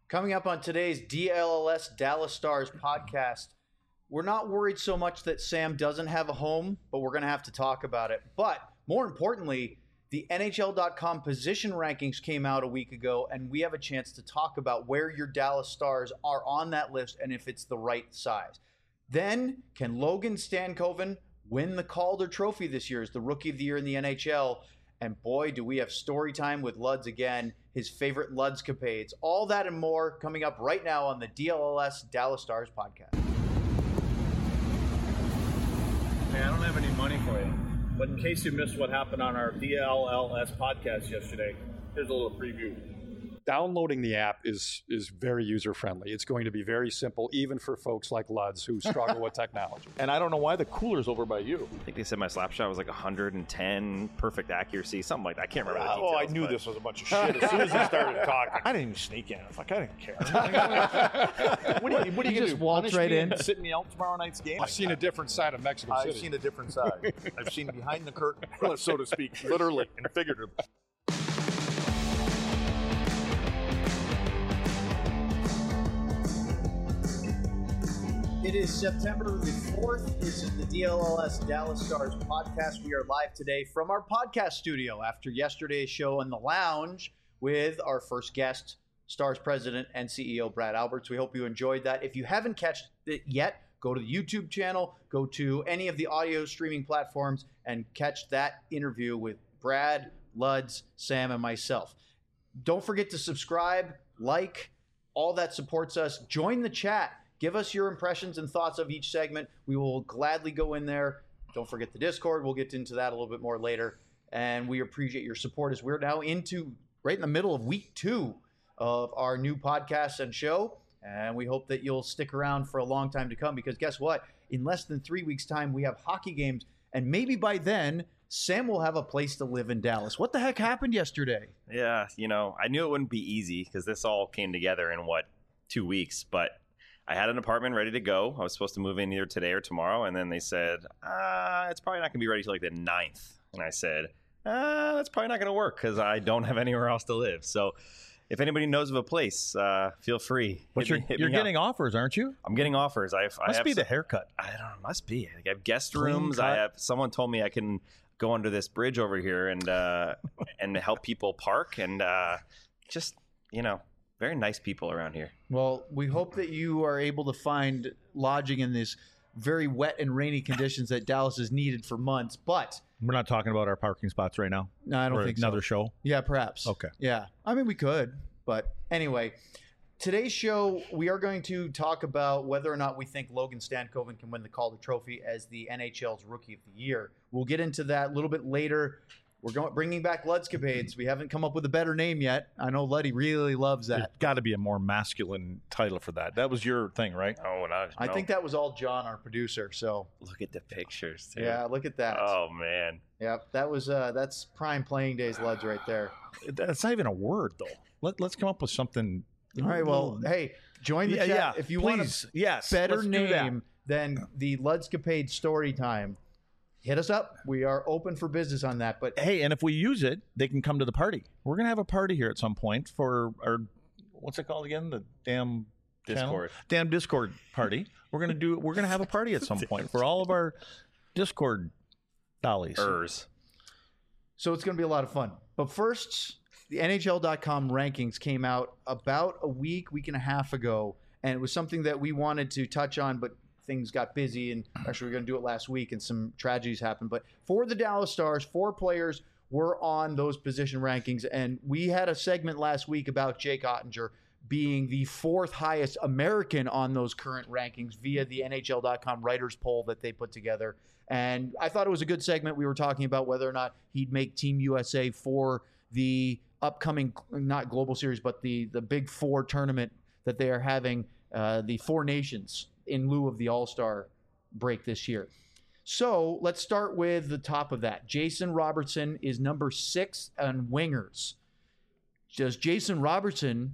Coming up on today's DLLS Dallas Stars podcast, we're not worried so much that Sam doesn't have a home, but we're going to have to talk about it. But more importantly, the NHL.com position rankings came out a week ago, and we have a chance to talk about where your Dallas Stars are on that list and if it's the right size. Then, can Logan Stankoven win the Calder Trophy this year as the Rookie of the Year in the NHL? And boy, do we have story time with Luds again, his favorite Ludscapades. All that and more coming up right now on the DLLS Dallas Stars podcast. Hey, I don't have any money for you, but in case you missed what happened on our DLLS podcast yesterday, here's a little preview. Downloading the app is very user-friendly. It's going to be very simple, even for folks like Luds who struggle with technology. And I don't know why the cooler's over by you. I think they said my slap shot was like 110, perfect accuracy, something like that. I can't remember the details. Oh, I knew this was a bunch of shit as soon as he started talking. I didn't even sneak in. I didn't care. What are you going to just do? walked Punish right me in? and sit me out tomorrow night's game? I've seen a different side of Mexico City. I've seen a different side. I've seen behind the curtain, so to speak, literally and figuratively. It is September the 4th. This is the DLLS Dallas Stars podcast. We are live today from our podcast studio after yesterday's show in the lounge with our first guest, Stars president and CEO Brad Alberts. We hope you enjoyed that. If you haven't catched it yet, go to the YouTube channel, go to any of the audio streaming platforms, and catch that interview with Brad, Luds, Sam, and myself. Don't forget to subscribe, like, all that supports us. Join the chat. Give us your impressions and thoughts of each segment. We will gladly go in there. Don't forget the Discord. We'll get into that a little bit more later. And we appreciate your support as we're now right in the middle of week 2 of our new podcast and show. And we hope that you'll stick around for a long time to come, because guess what? In less than 3 weeks' time, we have hockey games. And maybe by then, Sam will have a place to live in Dallas. What the heck happened yesterday? Yeah, I knew it wouldn't be easy because this all came together in, 2 weeks. But I had an apartment ready to go. I was supposed to move in either today or tomorrow. And then they said, it's probably not going to be ready till like the 9th. And I said, that's probably not going to work because I don't have anywhere else to live. So if anybody knows of a place, feel free. But you're getting offers, aren't you? I'm getting offers. Must be the haircut. I don't know. Must be. I have guest rooms. Someone told me I can go under this bridge over here and help people park and very nice people around here. Well, we hope that you are able to find lodging in these very wet and rainy conditions that Dallas has needed for months. But We're not talking about our parking spots right now? No, I don't think so. Another show? Yeah, perhaps. Okay. Yeah. I mean, we could. But anyway, today's show, we are going to talk about whether or not we think Logan Stankoven can win the Calder Trophy as the NHL's Rookie of the Year. We'll get into that a little bit later. We're bringing back Ludscapades. We haven't come up with a better name yet. I know Luddy really loves that. There's got to be a more masculine title for that. That was your thing, right? Oh, no. I think that was all John, our producer. So Look at the pictures, too. yeah, look at that. Oh, man. Yeah, that was that's prime playing days Luds right there. That's not even a word, though. Let's come up with something. All right, well, hey, join the chat if you want a better name than the Ludscapade story time. Hit us up. We are open for business on that. But hey, and if we use it, they can come to the party. We're going to have a party here at some point for our, what's it called again? The damn Discord. Damn Discord party. We're going to have a party at some point for all of our Discord dollies. So it's going to be a lot of fun. But first, the NHL.com rankings came out about a week and a half ago, and it was something that we wanted to touch on, but things got busy, and actually we were going to do it last week, and some tragedies happened. But for the Dallas Stars, 4 players were on those position rankings, and we had a segment last week about Jake Oettinger being the 4th highest American on those current rankings via the NHL.com writers poll that they put together. And I thought it was a good segment. We were talking about whether or not he'd make Team USA for the upcoming, not Global Series, but the Big Four tournament that they are having, the Four Nations, in lieu of the All-Star break this year. So let's start with the top of that. Jason Robertson is number 6 on wingers. Does Jason Robertson,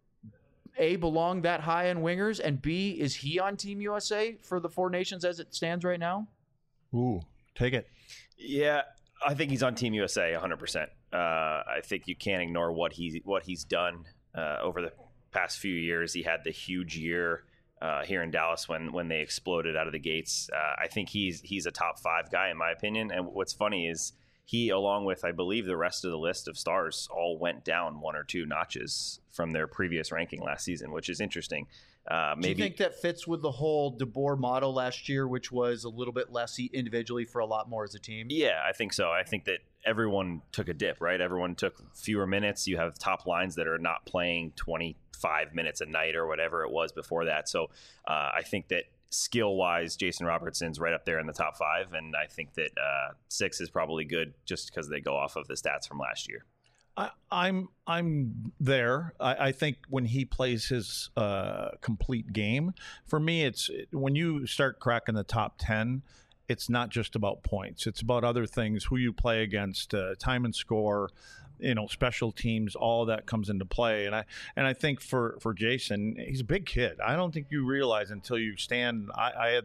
A, belong that high on wingers, and B, is he on Team USA for the Four Nations as it stands right now? Ooh, take it. Yeah, I think he's on Team USA 100%. I think you can't ignore what he's done over the past few years. He had the huge year here in Dallas when they exploded out of the gates. I think he's a top 5 guy in my opinion. And what's funny is he, along with I believe the rest of the list of stars, all went down 1 or 2 notches from their previous ranking last season, which is interesting. Maybe. Do you think that fits with the whole DeBoer model last year, which was a little bit less individually for a lot more as a team? Yeah, I think so. I think that everyone took a dip, right? Everyone took fewer minutes. You have top lines that are not playing 25 minutes a night or whatever it was before that. So I think that skill-wise, Jason Robertson's right up there in the top 5, and I think that 6 is probably good just because they go off of the stats from last year. I'm there. I think when he plays his complete game, for me, it's when you start cracking the top 10, it's not just about points. It's about other things, who you play against, time and score, special teams, all of that comes into play. And I think for Jason, he's a big kid. I don't think you realize until you stand. I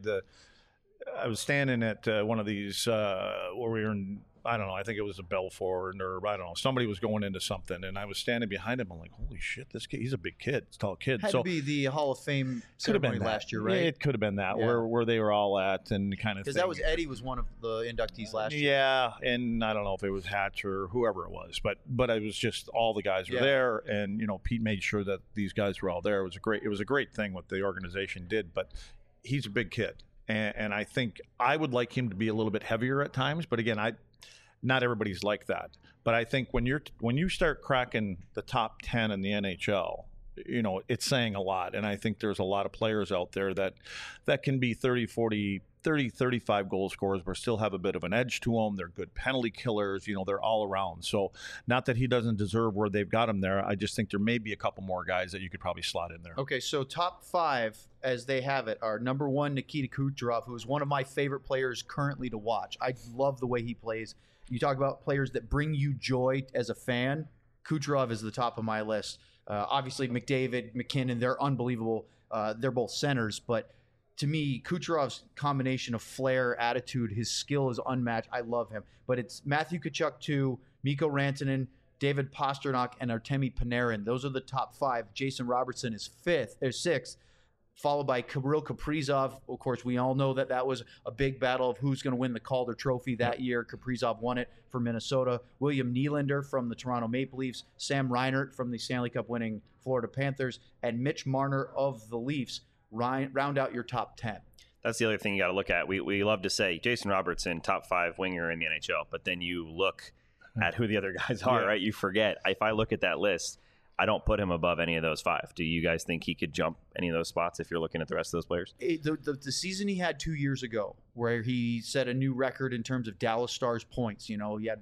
was standing at one of these where we were in, I don't know, I think it was a Belfort, or I don't know, somebody was going into something, and I was standing behind him. I'm like, holy shit, this kid, he's a big kid, he's a tall kid. Had to be the Hall of Fame ceremony last year, right? Yeah, it could have been that, where they were all at and kind of thing. Because that was Eddie was one of the inductees last year. Yeah, and I don't know if it was Hatch or whoever it was, but it was just all the guys were there, and Pete made sure that these guys were all there. It was a great thing what the organization did, but he's a big kid, and I think I would like him to be a little bit heavier at times, but again, not everybody's like that. But I think when you start cracking the top 10 in the NHL, it's saying a lot. And I think there's a lot of players out there that can be 30, 40, 30, 35 goal scorers, but still have a bit of an edge to them. They're good penalty killers. They're all around. So not that he doesn't deserve where they've got him there. I just think there may be a couple more guys that you could probably slot in there. Okay, so top 5, as they have it, are number 1, Nikita Kucherov, who is one of my favorite players currently to watch. I love the way he plays. You talk about players that bring you joy as a fan. Kucherov is the top of my list. Obviously, McDavid, McKinnon, they're unbelievable. They're both centers. But to me, Kucherov's combination of flair, attitude, his skill is unmatched. I love him. But it's Matthew Tkachuk 2, Mikko Rantanen, David Pastrnak, and Artemi Panarin. Those are the top 5. Jason Robertson is 6th. Followed by Kirill Kaprizov. Of course, we all know that was a big battle of who's going to win the Calder Trophy that year. Kaprizov won it for Minnesota. William Nylander from the Toronto Maple Leafs. Sam Reinhart from the Stanley Cup winning Florida Panthers. And Mitch Marner of the Leafs round out your top 10. That's the other thing you got to look at. We love to say Jason Robertson, top 5 winger in the NHL, but then you look at who the other guys are, right? You forget. If I look at that list, I don't put him above any of those 5. Do you guys think he could jump any of those spots if you're looking at the rest of those players? The season he had 2 years ago, where he set a new record in terms of Dallas Stars points, he had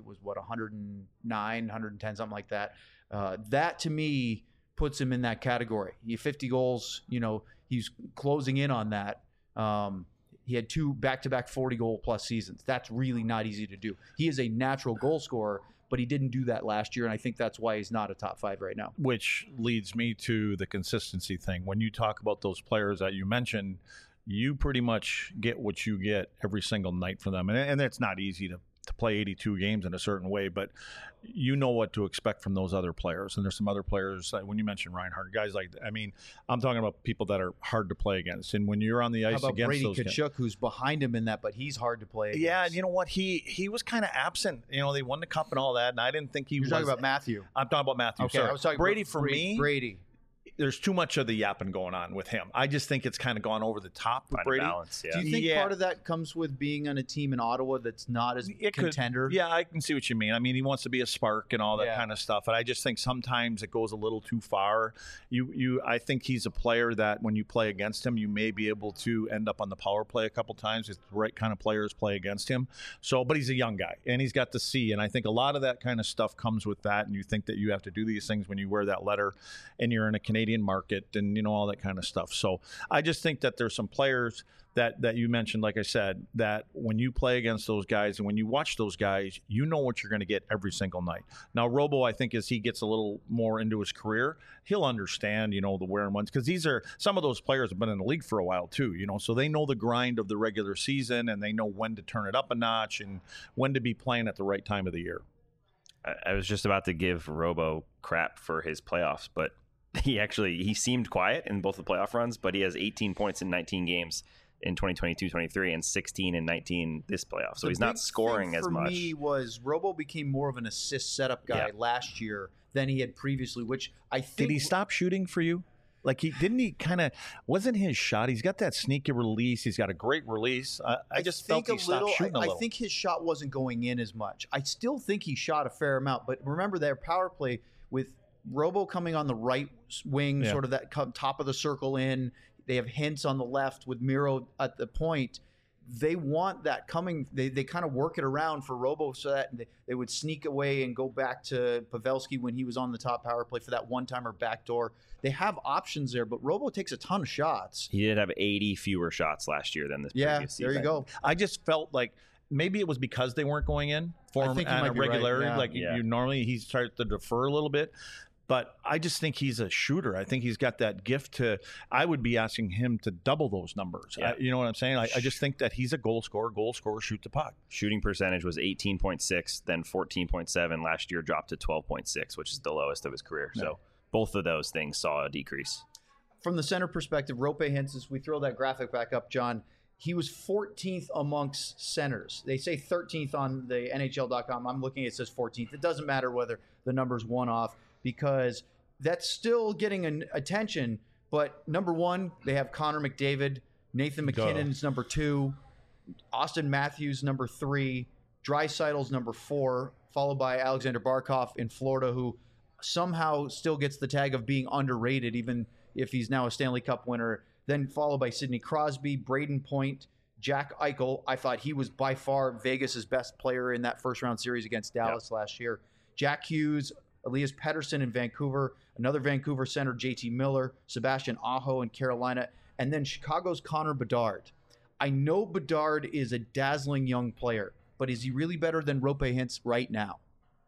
109, 110, something like that. That to me puts him in that category. He had 50 goals, he's closing in on that. He had 2 back-to-back 40-goal plus seasons. That's really not easy to do. He is a natural goal scorer, but he didn't do that last year, and I think that's why he's not a top 5 right now. Which leads me to the consistency thing. When you talk about those players that you mentioned, you pretty much get what you get every single night from them. And it's not easy to play 82 games in a certain way, but you know what to expect from those other players. And there's some other players, like when you mentioned Reinhart, guys like, I'm talking about people that are hard to play against. And when you're on the ice against Brady those Tkachuk, who's behind him in that, but he's hard to play against. Yeah, you know what? He was kind of absent. They won the cup and all that, and I didn't think he was. You're talking about Matthew. I'm talking about Matthew. Okay, sorry. I was talking Brady about for me. Brady. There's too much of the yapping going on with him. I just think it's kind of gone over the top with Brady. Balance, yeah. Do you think part of that comes with being on a team in Ottawa that's not as contender? Yeah, I can see what you mean. He wants to be a spark and all that kind of stuff. And I just think sometimes it goes a little too far. I think he's a player that when you play against him, you may be able to end up on the power play a couple times if the right kind of players play against him. So, but he's a young guy and he's got the C. And I think a lot of that kind of stuff comes with that. And you think that you have to do these things when you wear that letter and you're in a Canadian market and all that kind of stuff. So I just think that there's some players that you mentioned, like I said, that when you play against those guys and when you watch those guys, you know what you're going to get every single night. Now, Robo, I think as he gets a little more into his career, he'll understand, the where and whens, because some of those players have been in the league for a while too, so they know the grind of the regular season and they know when to turn it up a notch and when to be playing at the right time of the year. I was just about to give Robo crap for his playoffs, but he seemed quiet in both the playoff runs, but he has 18 points in 19 games in 2022-23 and 16 and 19 this playoff. So he's not scoring as much. For me was Robo became more of an assist setup guy last year than he had previously, which I think. Did he stop shooting for you? Like wasn't his shot? He's got that sneaky release. He's got a great release. I just felt he stopped shooting a little. I think his shot wasn't going in as much. I still think he shot a fair amount, but remember their power play with Robo coming on the right wing, sort of that top of the circle in. They have Hintz on the left with Miro at the point. They want that coming. They kind of work it around for Robo so that they would sneak away and go back to Pavelski when he was on the top power play for that one-timer backdoor. They have options there, but Robo takes a ton of shots. He did have 80 fewer shots last year than this previous season. There you go. I just felt like maybe it was because they weren't going in for him on a regularity. Right. You normally he starts to defer a little bit. But I just think he's a shooter. I think he's got that gift to – I would be asking him to double those numbers. Yeah. You know what I'm saying? I just think that he's a goal scorer, shoot the puck. Shooting percentage was 18.6, then 14.7. Last year dropped to 12.6, which is the lowest of his career. Yeah. So both of those things saw a decrease. From the center perspective, Roope Hintz, we throw that graphic back up, John, he was 14th amongst centers. They say 13th on the NHL.com. I'm looking, it says 14th. It doesn't matter whether the number's one off, because that's still getting an attention. But number one, they have Connor McDavid. Nathan McKinnon's number 2. Austin Matthews, number 3. Draisaitl's number 4, followed by Alexander Barkov in Florida, who somehow still gets the tag of being underrated, even if he's now a Stanley Cup winner. Then followed by Sidney Crosby, Braden Point, Jack Eichel. I thought he was by far Vegas' best player in that first-round series against Dallas last year. Jack Hughes, Elias Pettersson in Vancouver, another Vancouver center, JT Miller, Sebastian Aho in Carolina, and then Chicago's Connor Bedard. I know Bedard is a dazzling young player, but is he really better than Roope Hintz right now?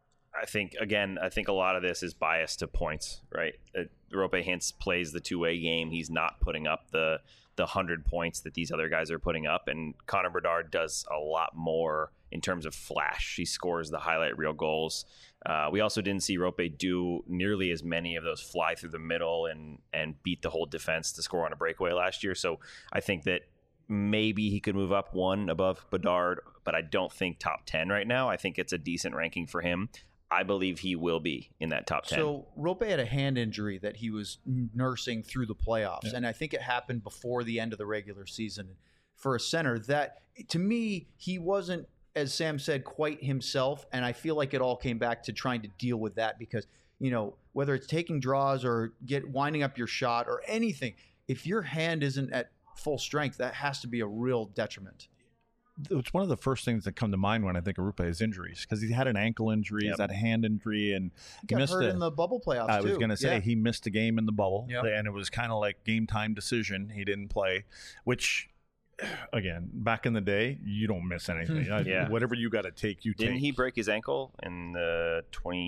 I think a lot of this is biased to points, right? Roope Hintz plays the two-way game. He's not putting up the 100 points that these other guys are putting up, and Connor Bedard does a lot more in terms of flash. He scores the highlight reel goals. We also didn't see Roope do nearly as many of those fly through the middle and beat the whole defense to score on a breakaway last year. So I think that maybe he could move up one above Bedard, but I don't think top 10 right now. I think it's a decent ranking for him. I believe he will be in that top 10. So Roope had a hand injury that he was nursing through the playoffs, and I think it happened before the end of the regular season. For a center, that to me, he wasn't, as Sam said, quite himself, and I feel like it all came back to trying to deal with that because, you know, whether it's taking draws or winding up your shot or anything, if your hand isn't at full strength, that has to be a real detriment. It's one of the first things that come to mind when I think of Roope is injuries, because he had an ankle injury, he's had a hand injury, and he got hurt in the bubble playoffs. I was going to say he missed a game in the bubble, and it was kind of like game time decision. He didn't play, which, again, back in the day, you don't miss anything. Whatever you got to take, you take. Didn't he break his ankle in the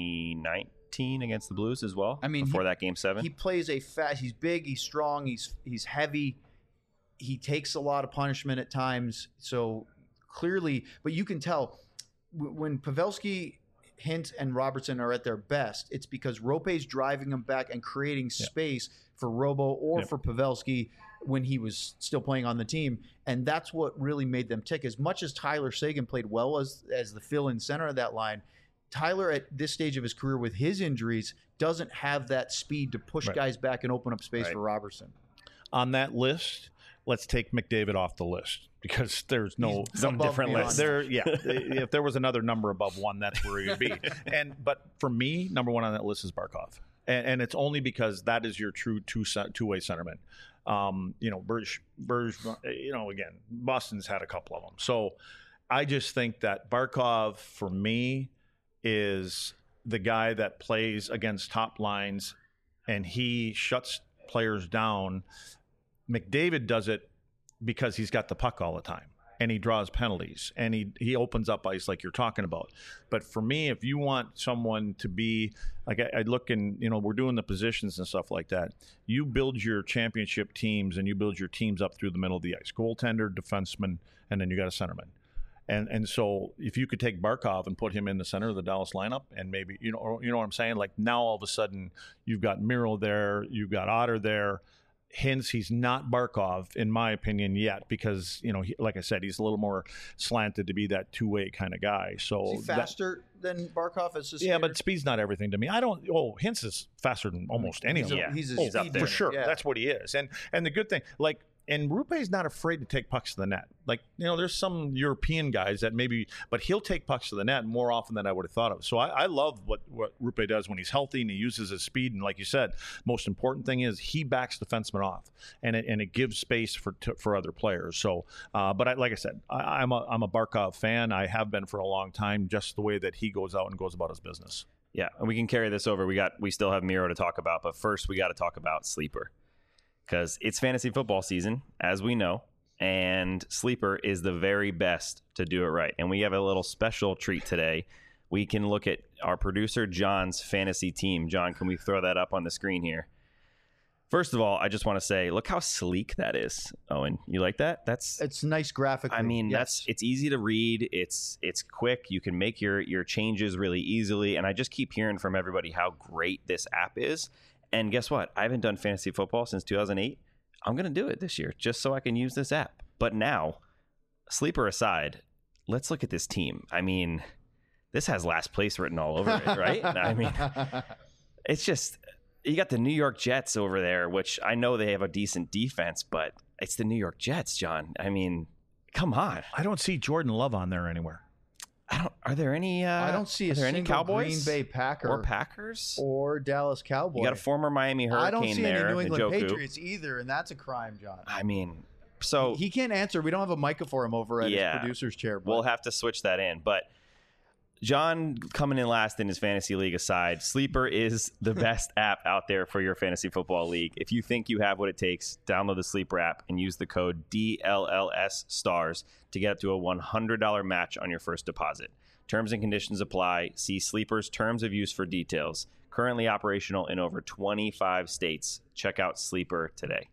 2019 against the Blues as well? I mean, before that game 7, he plays he's big, he's strong, he's heavy. He takes a lot of punishment at times, so clearly, but you can tell when Pavelski, Hintz, and Robertson are at their best, it's because Roope's driving them back and creating space for Robo or for Pavelski when he was still playing on the team, and that's what really made them tick. As much as Tyler Seguin played well as the fill-in center of that line, Tyler at this stage of his career with his injuries doesn't have that speed to push guys back and open up space for Robertson. On that list, let's take McDavid off the list because there's some different list. If there was another number above 1, that's where he would be. But for me, number 1 on that list is Barkov, and it's only because that is your true two-way centerman. Berge. Again, Boston's had a couple of them, so I just think that Barkov for me is the guy that plays against top lines, and he shuts players down. McDavid does it because he's got the puck all the time and he draws penalties and he opens up ice like you're talking about. But for me, if you want someone to be like, I look and, we're doing the positions and stuff like that. You build your championship teams and you build your teams up through the middle of the ice, goaltender, defenseman, and then you got a centerman. And so if you could take Barkov and put him in the center of the Dallas lineup, and maybe you know what I'm saying. Like now all of a sudden you've got Miro there, you've got Otter there. Hence, he's not Barkov, in my opinion, yet, because, like I said, he's a little more slanted to be that two-way kind of guy. So is he faster than Barkov? Yeah, but speed's not everything to me. Hintz is faster than almost any of them. He's up there. For sure. Yeah. That's what he is. And the good thing, and Rupe's not afraid to take pucks to the net. There's some European guys that maybe, but he'll take pucks to the net more often than I would have thought of. So I love what Rupe does when he's healthy and he uses his speed. And like you said, most important thing is he backs defensemen off, and it gives space for other players. So, but like I said, I'm a Barkov fan. I have been for a long time. Just the way that he goes out and goes about his business. Yeah, and we can carry this over. We still have Miro to talk about, but first we got to talk about Sleeper. Because it's fantasy football season, as we know, and Sleeper is the very best to do it right. And we have a little special treat today. We can look at our producer, John's fantasy team. John, can we throw that up on the screen here? First of all, I just want to say, look how sleek that is. Owen, you like that? It's nice graphically. I mean, yes. it's easy to read. It's quick. You can make your changes really easily. And I just keep hearing from everybody how great this app is. And guess what? I haven't done fantasy football since 2008. I'm going to do it this year just so I can use this app. But now, Sleeper aside, let's look at this team. I mean, this has last place written all over it, right? I mean, it's just, you got the New York Jets over there, which I know they have a decent defense, but it's the New York Jets, John. I mean, come on. I don't see Jordan Love on there anywhere. Are there any? I don't see a single Cowboys, Green Bay Packer or Packers or Dallas Cowboys. You got a former Miami Hurricane I don't see there, any New England Njoku. Patriots either, and that's a crime, John. I mean, so he can't answer. We don't have a mic for him over at his producer's chair. But we'll have to switch that in. But John coming in last in his fantasy league aside, Sleeper is the best app out there for your fantasy football league. If you think you have what it takes, download the Sleeper app and use the code DLLS STARS to get up to a $100 match on your first deposit. Terms and conditions apply. See Sleeper's terms of use for details. Currently operational in over 25 states. Check out Sleeper today.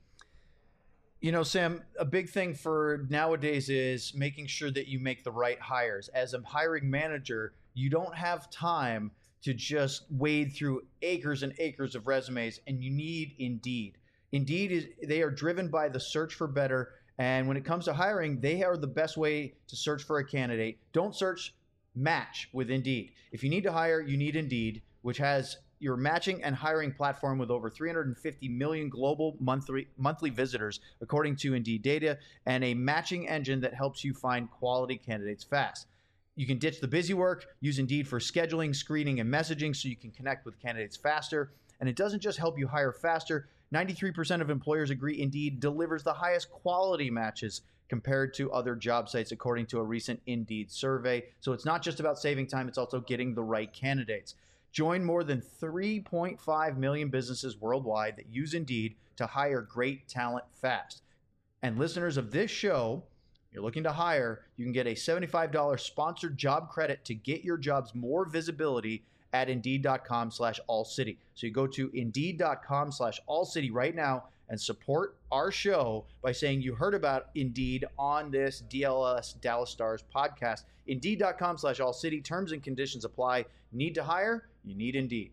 Sam, a big thing for nowadays is making sure that you make the right hires. As a hiring manager, you don't have time to just wade through acres and acres of resumes, and you need Indeed. They are driven by the search for better, and when it comes to hiring, they are the best way to search for a candidate. Don't search, match with Indeed. If you need to hire, you need Indeed, which has your matching and hiring platform with over 350 million global monthly visitors, according to Indeed data, and a matching engine that helps you find quality candidates fast. You can ditch the busy work, use Indeed for scheduling, screening, and messaging so you can connect with candidates faster. And it doesn't just help you hire faster. 93% of employers agree Indeed delivers the highest quality matches compared to other job sites, according to a recent Indeed survey. So it's not just about saving time, it's also getting the right candidates. Join more than 3.5 million businesses worldwide that use Indeed to hire great talent fast. And listeners of this show, you're looking to hire, you can get a $75 sponsored job credit to get your jobs more visibility at Indeed.com/AllCity. So you go to Indeed.com/AllCity right now and support our show by saying you heard about Indeed on this DLS Dallas Stars podcast. Indeed.com/AllCity. Terms and conditions apply. Need to hire? You need Indeed.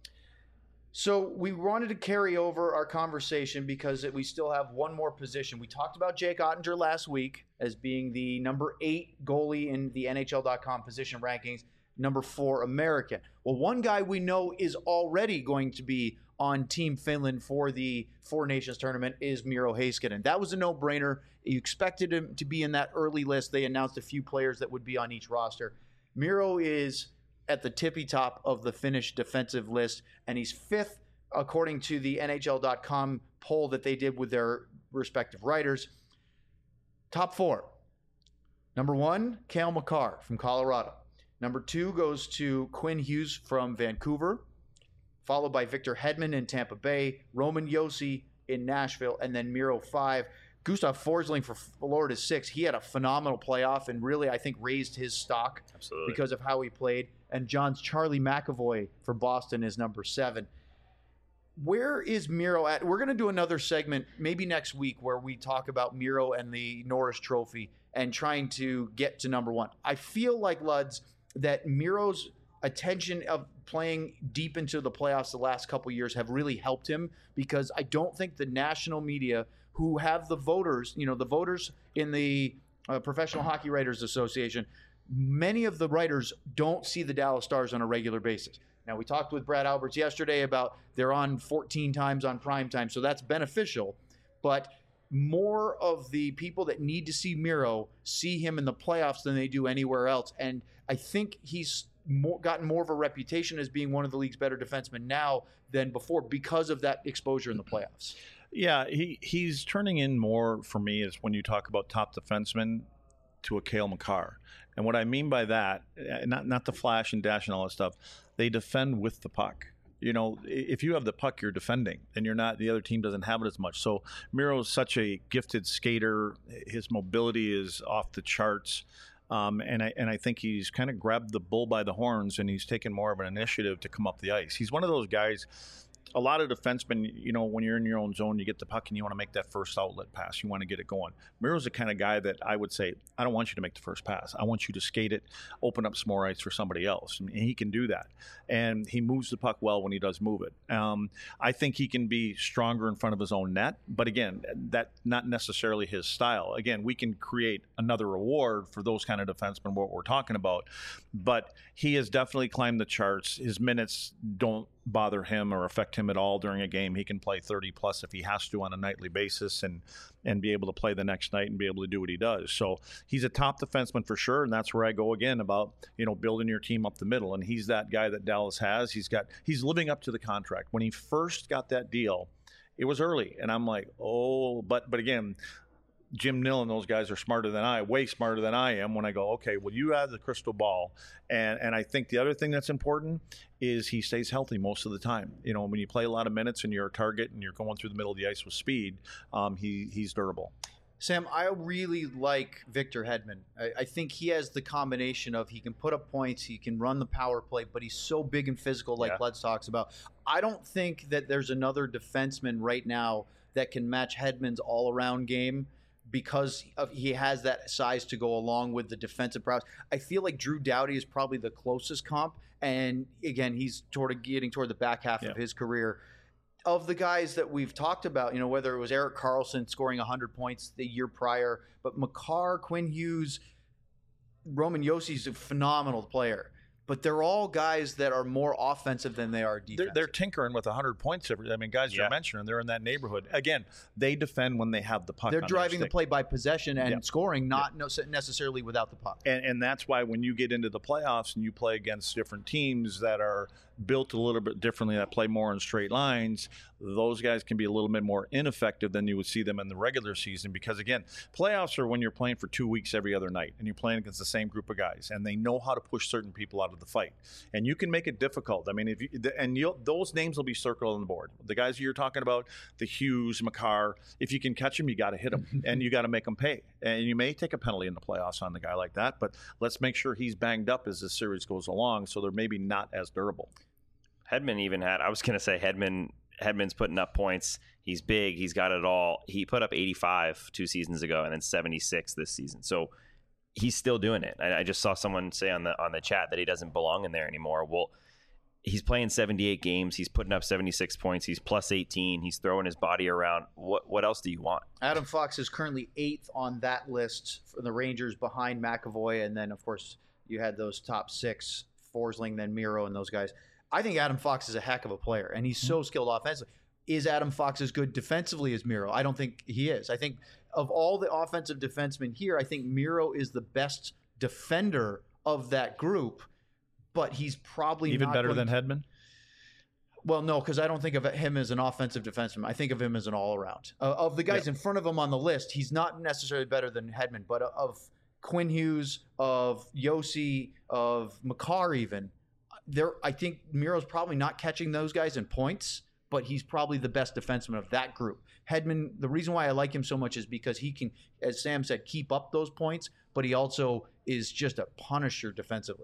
So we wanted to carry over our conversation because we still have one more position. We talked about Jake Ottinger last week as being the number 8 goalie in the NHL.com position rankings, number 4 American. Well, one guy we know is already going to be on Team Finland for the Four Nations tournament is Miro Heiskanen. That was a no-brainer. You expected him to be in that early list. They announced a few players that would be on each roster. Miro is at the tippy top of the Finnish defensive list, and he's 5th according to the NHL.com poll that they did with their respective writers. Top 4. Number 1, Cale Makar from Colorado. Number 2 goes to Quinn Hughes from Vancouver, followed by Victor Hedman in Tampa Bay, Roman Josi in Nashville, and then Miro 5. Gustav Forsling for Florida 6. He had a phenomenal playoff and really, I think, raised his stock because of how he played. And John's Charlie McAvoy for Boston is number 7. where is Miro at? We're going to do another segment maybe next week where we talk about Miro and the Norris Trophy and trying to get to number one. I feel like, Luds, that Miro's attention of playing deep into the playoffs the last couple of years have really helped him, because I don't think the national media, who have the voters, the voters in the Professional Hockey Writers Association, many of the writers don't see the Dallas Stars on a regular basis. Now, we talked with Brad Alberts yesterday about they're on 14 times on prime time, so that's beneficial. But more of the people that need to see Miro see him in the playoffs than they do anywhere else. And I think he's gotten more of a reputation as being one of the league's better defensemen now than before because of that exposure in the playoffs. Yeah, he's turning in more for me is when you talk about top defensemen to a Cale Makar. And what I mean by that, not the flash and dash and all that stuff, they defend with the puck. If you have the puck, you're defending, and you're not. The other team doesn't have it as much. So Miro is such a gifted skater. His mobility is off the charts, and I think he's kind of grabbed the bull by the horns, and he's taken more of an initiative to come up the ice. He's one of those guys. A lot of defensemen, when you're in your own zone, you get the puck and you want to make that first outlet pass. You want to get it going. Miro's the kind of guy that I would say, I don't want you to make the first pass. I want you to skate it, open up some more ice for somebody else. And he can do that. And he moves the puck well when he does move it. I think he can be stronger in front of his own net. But again, that's not necessarily his style. Again, we can create another reward for those kind of defensemen, what we're talking about. But he has definitely climbed the charts. His minutes don't bother him or affect him at all during a game. He can play 30 plus if he has to on a nightly basis and be able to play the next night and be able to do what he does. So he's a top defenseman for sure, and that's where I go again about building your team up the middle. And he's that guy that Dallas has. He's living up to the contract. When he first got that deal, it was early, and I'm like, but again, Jim Nill and those guys are smarter than way smarter than I am when I go, okay, well, you have the crystal ball. And I think the other thing that's important is he stays healthy most of the time. When you play a lot of minutes and you're a target and you're going through the middle of the ice with speed, he's durable. Sam, I really like Victor Hedman. I think he has the combination of he can put up points, he can run the power play, but he's so big and physical like Lutz talks about. I don't think that there's another defenseman right now that can match Hedman's all-around game, because he has that size to go along with the defensive prowess. I feel like Drew Doughty is probably the closest comp. And again, he's getting toward the back half of his career. Of the guys that we've talked about, whether it was Erik Karlsson scoring 100 points the year prior, but Makar, Quinn Hughes, Roman Josi's a phenomenal player. But they're all guys that are more offensive than they are defensive. They're tinkering with 100 points. Guys you're mentioning, they're in that neighborhood. Again, they defend when they have the puck. They're driving the play by possession and scoring, not necessarily without the puck. And that's why when you get into the playoffs and you play against different teams that are built a little bit differently, that play more in straight lines, those guys can be a little bit more ineffective than you would see them in the regular season. Because again, playoffs are when you're playing for 2 weeks every other night and you're playing against the same group of guys, and they know how to push certain people out of the fight, and you can make it difficult. Those names will be circled on the board. The guys you're talking about, the Hughes, Makar, if you can catch them, you got to hit them and you got to make them pay. And you may take a penalty in the playoffs on the guy like that, but let's make sure he's banged up as the series goes along, so they're maybe not as durable. Hedman even I was going to say Hedman's putting up points. He's big. He's got it all. He put up 85 2 seasons ago and then 76 this season. So he's still doing it. I just saw someone say on the chat that he doesn't belong in there anymore. Well, he's playing 78 games. He's putting up 76 points. He's plus 18. He's throwing his body around. What else do you want? Adam Fox is currently 8th on that list for the Rangers, behind McAvoy. And then, of course, you had those top 6, Forsling, then Miro, and those guys. I think Adam Fox is a heck of a player, and he's so skilled offensively. Is Adam Fox as good defensively as Miro? I don't think he is. I think of all the offensive defensemen here, I think Miro is the best defender of that group, but he's probably even not better than Hedman? Well, no, because I don't think of him as an offensive defenseman. I think of him as an all-around. Of the guys in front of him on the list, he's not necessarily better than Hedman, but of Quinn Hughes, of Josi, of Makar even, I think Miro's probably not catching those guys in points, but he's probably the best defenseman of that group. Hedman, the reason why I like him so much is because he can, as Sam said, keep up those points, but he also is just a punisher defensively.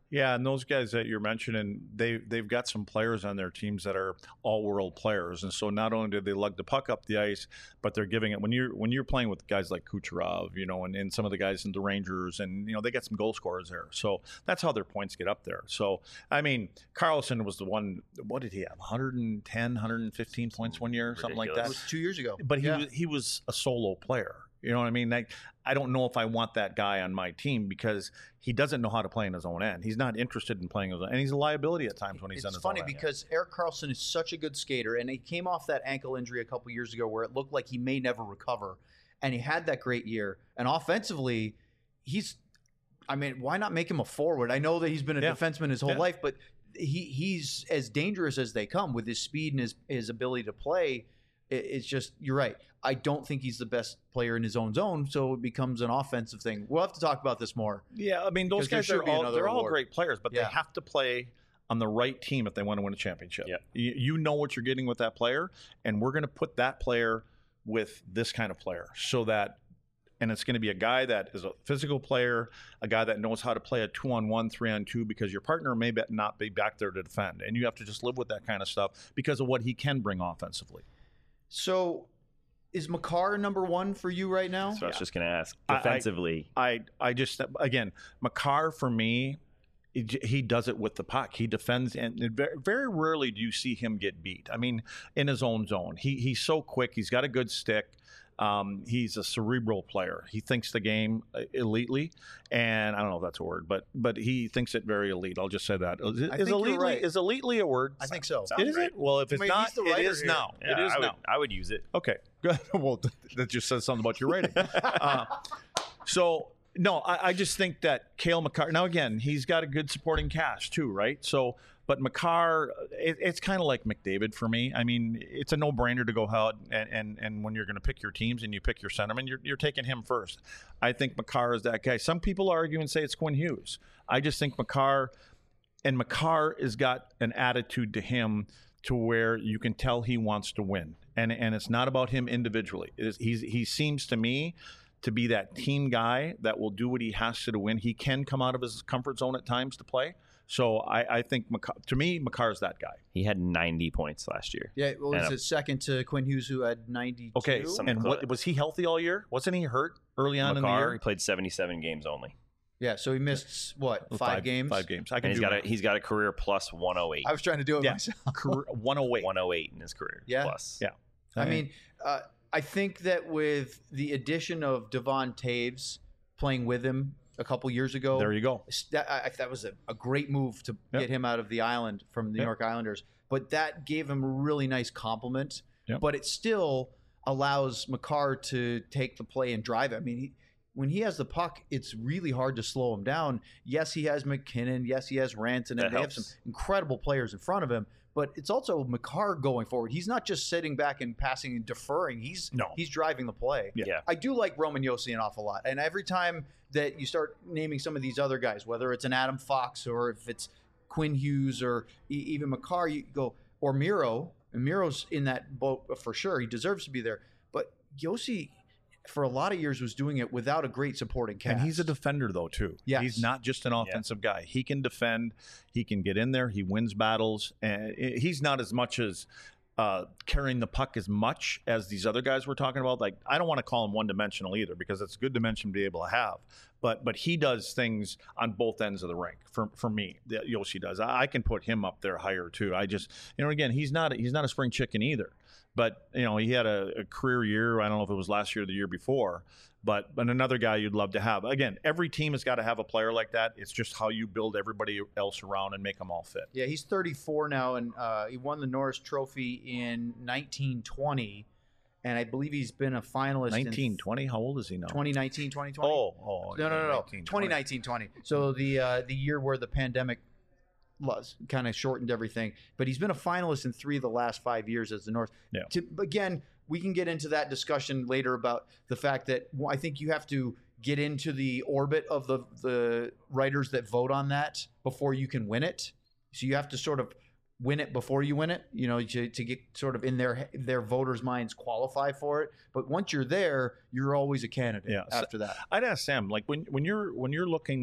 Yeah, and those guys that you're mentioning, they've got some players on their teams that are all-world players, and so not only do they lug the puck up the ice, but they're giving it when you're playing with guys like Kucherov, and some of the guys in the Rangers, and they got some goal scorers there, so that's how their points get up there. So I mean, Karlsson was the one. What did he have? 110, 115 points one year, something like that. It was 2 years ago. But he was a solo player. You know what I mean? I don't know if I want that guy on my team because he doesn't know how to play in his own end. He's not interested in playing his own, and he's a liability at times when he's on his own end. It's funny because Erik Karlsson is such a good skater, and he came off that ankle injury a couple years ago where it looked like he may never recover, and he had that great year. And offensively, why not make him a forward? I know that he's been a defenseman his whole life, but he's as dangerous as they come with his speed and his ability to play. It's just, you're right. I don't think he's the best player in his own zone, so it becomes an offensive thing. We'll have to talk about this more. Yeah, I mean, those guys they're all great players, but they have to play on the right team if they want to win a championship. Yeah. You know what you're getting with that player, and we're going to put that player with this kind of player and it's going to be a guy that is a physical player, a guy that knows how to play a 2-on-1, 3-on-2, because your partner may not be back there to defend, and you have to just live with that kind of stuff because of what he can bring offensively. So is Makar number one for you right now? So I was just going to ask. Defensively. I just, again, Makar for me, he does it with the puck. He defends, and very rarely do you see him get beat. I mean, in his own zone. He's so quick. He's got a good stick. He's a cerebral player. He thinks the game elitely, and I don't know if that's a word, but he thinks it very elite. I'll just say that. Is elitely a word? I think so. Is it? Well, if it's not, it is now. Yeah, it is now. I would use it. Okay, good. Well, that just says something about your rating. No, I just think that Cale Makar. Now again, he's got a good supporting cast too, right? So. But Makar, it's kind of like McDavid for me. I mean, it's a no-brainer to go out and when you're going to pick your teams and you pick your centerman, you're taking him first. I think Makar is that guy. Some people argue and say it's Quinn Hughes. I just think Makar has got an attitude to him to where you can tell he wants to win. And it's not about him individually. He seems to me to be that team guy that will do what he has to win. He can come out of his comfort zone at times to play. So I think, to me, Makar's that guy. He had 90 points last year. Yeah, well, it's his second to Quinn Hughes, who had 92. Okay, and was he healthy all year? Wasn't he hurt early on in the year? He played 77 games only. Yeah, so he missed, five games? 5 games. He's got a career plus 108. I was trying to do it myself. Career 108. 108 in his career. Yeah. Plus. Yeah. I mean, I think that with the addition of Devon Taves playing with him a couple years ago. There you go. That was a great move to get him out of the island from the New York Islanders. But that gave him a really nice compliment. Yep. But it still allows Makar to take the play and drive it. I mean, when he has the puck, it's really hard to slow him down. Yes, he has McKinnon. Yes, he has Rantanen. And they have some incredible players in front of him. But it's also Makar going forward. He's not just sitting back and passing and deferring. He's driving the play. Yeah. I do like Roman Josi an awful lot. And every time that you start naming some of these other guys, whether it's an Adam Fox or if it's Quinn Hughes or even Makar, you go, or Miro. And Miro's in that boat for sure. He deserves to be there. But Josi, for a lot of years, was doing it without a great supporting cast. And he's a defender, though, too. Yes. He's not just an offensive guy. He can defend. He can get in there. He wins battles. And he's not as much as carrying the puck as much as these other guys we're talking about. Like, I don't want to call him one-dimensional either because it's a good dimension to be able to have. But he does things on both ends of the rink for me. That Josi does. I can put him up there higher too. I just, again, he's not a spring chicken either. But, he had a career year. I don't know if it was last year or the year before. But another guy you'd love to have. Again, every team has got to have a player like that. It's just how you build everybody else around and make them all fit. Yeah, he's 34 now, and he won the Norris Trophy in 1920. And I believe he's been a finalist 1920? How old is he now? 2019, 2020? Oh. No. 2019-20. So the year where the pandemic kind of shortened everything. But he's been a finalist in 3 of the last 5 years as the North. Yeah. Again, we can get into that discussion later about the fact that I think you have to get into the orbit of the writers that vote on that before you can win it. So you have to sort of win it before you win it, to get sort of in their voters' minds qualify for it. But once you're there, you're always a candidate after that. I'd ask Sam, like when you're looking at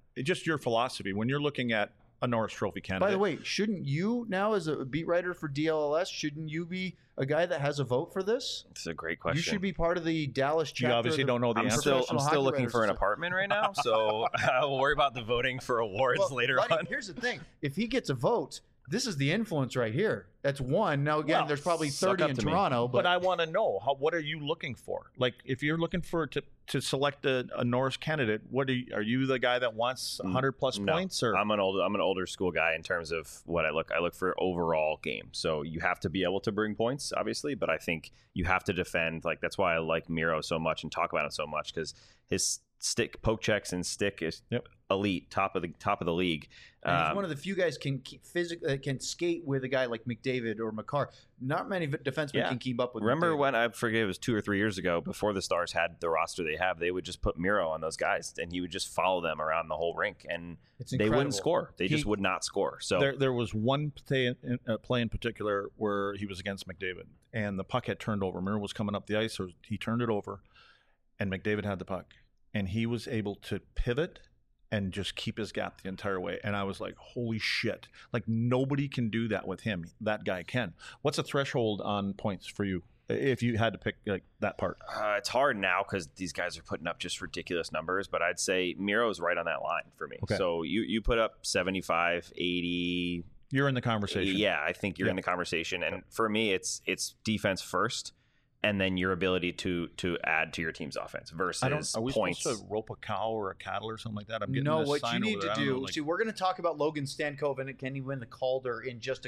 just your philosophy when you're looking at a Norris Trophy candidate. By the way, shouldn't you now, as a beat writer for DLLS, shouldn't you be a guy that has a vote for this? It's a great question. You should be part of the Dallas chapter. You obviously don't know the answer. I'm still looking for an apartment right now, so we'll worry about the voting for awards later on. Here's the thing: if he gets a vote, this is the influence right here. That's one. Now again, there's probably 30 in Toronto, but I want to know what are you looking for? Like, if you're looking for to select a Norris candidate, are you the guy that wants 100 plus points? Or I'm an older school guy in terms of what I look. I look for overall game. So you have to be able to bring points, obviously, but I think you have to defend. Like, that's why I like Miro so much and talk about him so much, because his poke checks and stick is elite, top of the league. And he's one of the few guys can skate with a guy like McDavid or Makar. Not many defensemen can keep up with. Remember McDavid. when, I forget, it was 2 or 3 years ago, before the Stars had the roster they have, they would just put Miro on those guys, and he would just follow them around the whole rink, and they wouldn't score. They just would not score. So there was one play in particular where he was against McDavid, and the puck had turned over. Miro was coming up the ice, so he turned it over, and McDavid had the puck. And he was able to pivot and just keep his gap the entire way. And I was like, holy shit. Like, nobody can do that with him. That guy can. What's a threshold on points for you if you had to pick like that part? It's hard now because these guys are putting up just ridiculous numbers. But I'd say Miro's right on that line for me. Okay. So you put up 75, 80. You're in the conversation. Yeah, I think you're in the conversation. And for me, it's defense first, and then your ability to add to your team's offense versus are we points. Supposed to rope a cow or a cattle or something like that? I'm getting no, this what sign you need over to there. do. See, we're going to talk about Logan Stankoven and can he win the Calder in just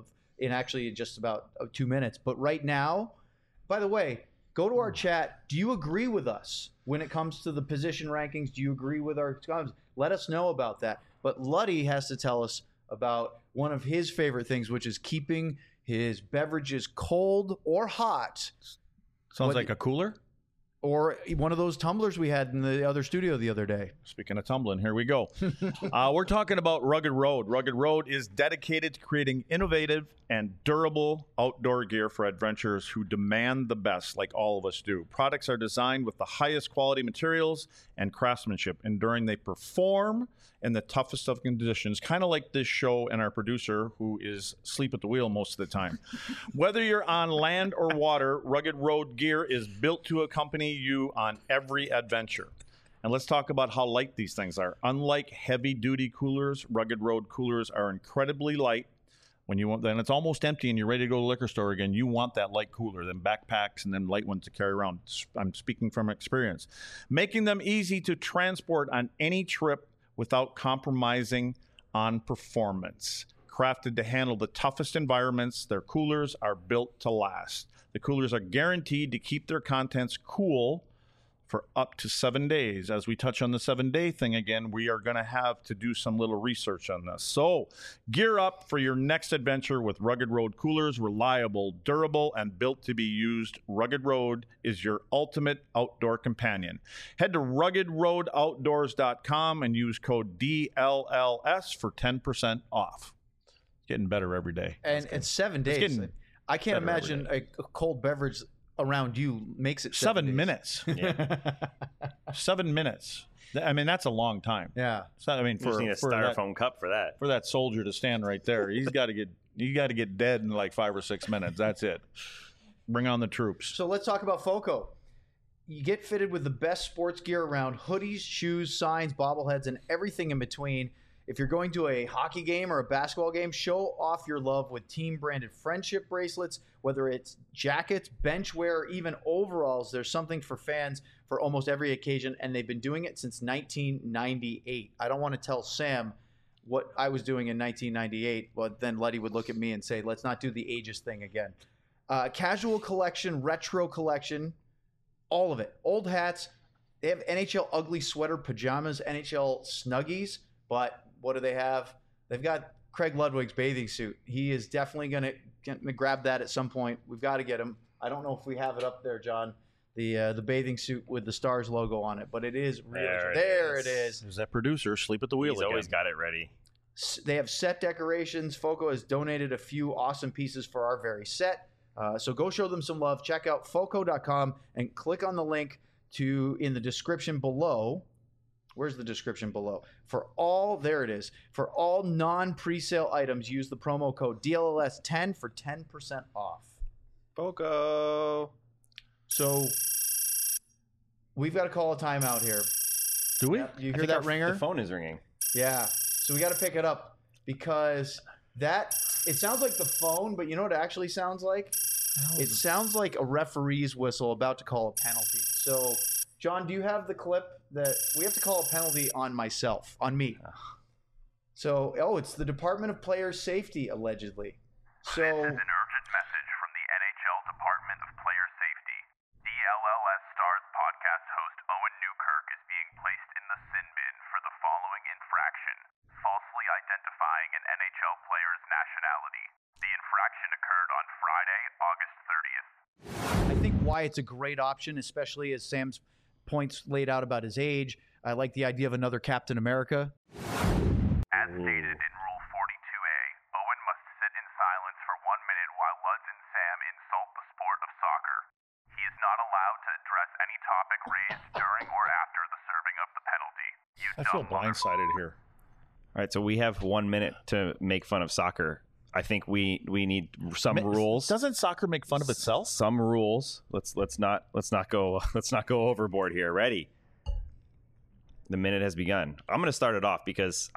just about 2 minutes. But right now, by the way, go to our chat. Do you agree with us when it comes to the position rankings? Do you agree with our comments? Let us know about that. But Luddy has to tell us about one of his favorite things, which is keeping his beverages cold or hot. Sounds like a cooler? Or one of those tumblers we had in the other studio the other day. Speaking of tumbling, here we go. We're talking about Rugged Road. Rugged Road is dedicated to creating innovative and durable outdoor gear for adventurers who demand the best, like all of us do. Products are designed with the highest quality materials and craftsmanship, ensuring they perform in the toughest of conditions, kind of like this show and our producer, who is asleep at the wheel most of the time. Whether you're on land or water, Rugged Road gear is built to accompany you on every adventure. And let's talk about how light these things are. Unlike heavy-duty coolers, Rugged Road coolers are incredibly light. Then it's almost empty and you're ready to go to the liquor store again. You want that light cooler, then backpacks and then light ones to carry around. I'm speaking from experience. Making them easy to transport on any trip without compromising on performance. Crafted to handle the toughest environments, their coolers are built to last. The coolers are guaranteed to keep their contents cool for up to 7 days. As we touch on the 7-day thing again, we are going to have to do some little research on this. So gear up for your next adventure with Rugged Road coolers. Reliable, durable, and built to be used. Rugged Road is your ultimate outdoor companion. Head to ruggedroadoutdoors.com and use code DLLS for 10% off. Getting better every day. And 7 days. I can't imagine a cold beverage around you makes it 7 minutes. Yeah. 7 minutes. I mean, that's a long time. Yeah. So, I mean, for a styrofoam cup for that. For that soldier to stand right there, you got to get dead in like 5 or 6 minutes. That's it. Bring on the troops. So let's talk about FOCO. You get fitted with the best sports gear around: hoodies, shoes, signs, bobbleheads, and everything in between. If you're going to a hockey game or a basketball game, show off your love with team-branded friendship bracelets. Whether it's jackets, bench wear, or even overalls, there's something for fans for almost every occasion, and they've been doing it since 1998. I don't want to tell Sam what I was doing in 1998, but then Letty would look at me and say, let's not do the ageist thing again. Casual collection, retro collection, all of it. Old hats. They have NHL ugly sweater pajamas, NHL Snuggies, but what do they have? They've got Craig Ludwig's bathing suit. He is definitely going to grab that at some point. We've got to get him. I don't know if we have it up there, John, the bathing suit with the Stars logo on it, but it is really there. It is. There's that producer sleep at the wheel. He's always got it ready. They have set decorations. FOCO has donated a few awesome pieces for our very set. So go show them some love. Check out FOCO.com and click on the link in the description below, Where's the description below? There it is. For all non-presale items, use the promo code DLLS10 for 10% off. Foco. So we've got to call a timeout here. Do we? Yep. You hear that ringer? The phone is ringing. Yeah. So we got to pick it up because it sounds like the phone, but you know what it actually sounds like? It sounds like a referee's whistle about to call a penalty. So, John, do you have the clip that we have to call a penalty on me? So, it's the Department of Player Safety, allegedly. So, this is an urgent message from the NHL Department of Player Safety. DLLS Stars podcast host Owen Newkirk is being placed in the sin bin for the following infraction: falsely identifying an NHL player's nationality. The infraction occurred on Friday, August 30th. I think Wyatt's a great option, especially as Sam's points laid out about his age. I like the idea of another Captain America. As stated in Rule 42A, Owen must sit in silence for 1 minute while Luds and Sam insult the sport of soccer. He is not allowed to address any topic raised during or after the serving of the penalty. I feel blindsided here. All right, so we have 1 minute to make fun of soccer. I think we need some rules. Doesn't soccer make fun of itself? Some rules. Let's not go overboard here. Ready? The minute has begun. I'm going to start it off because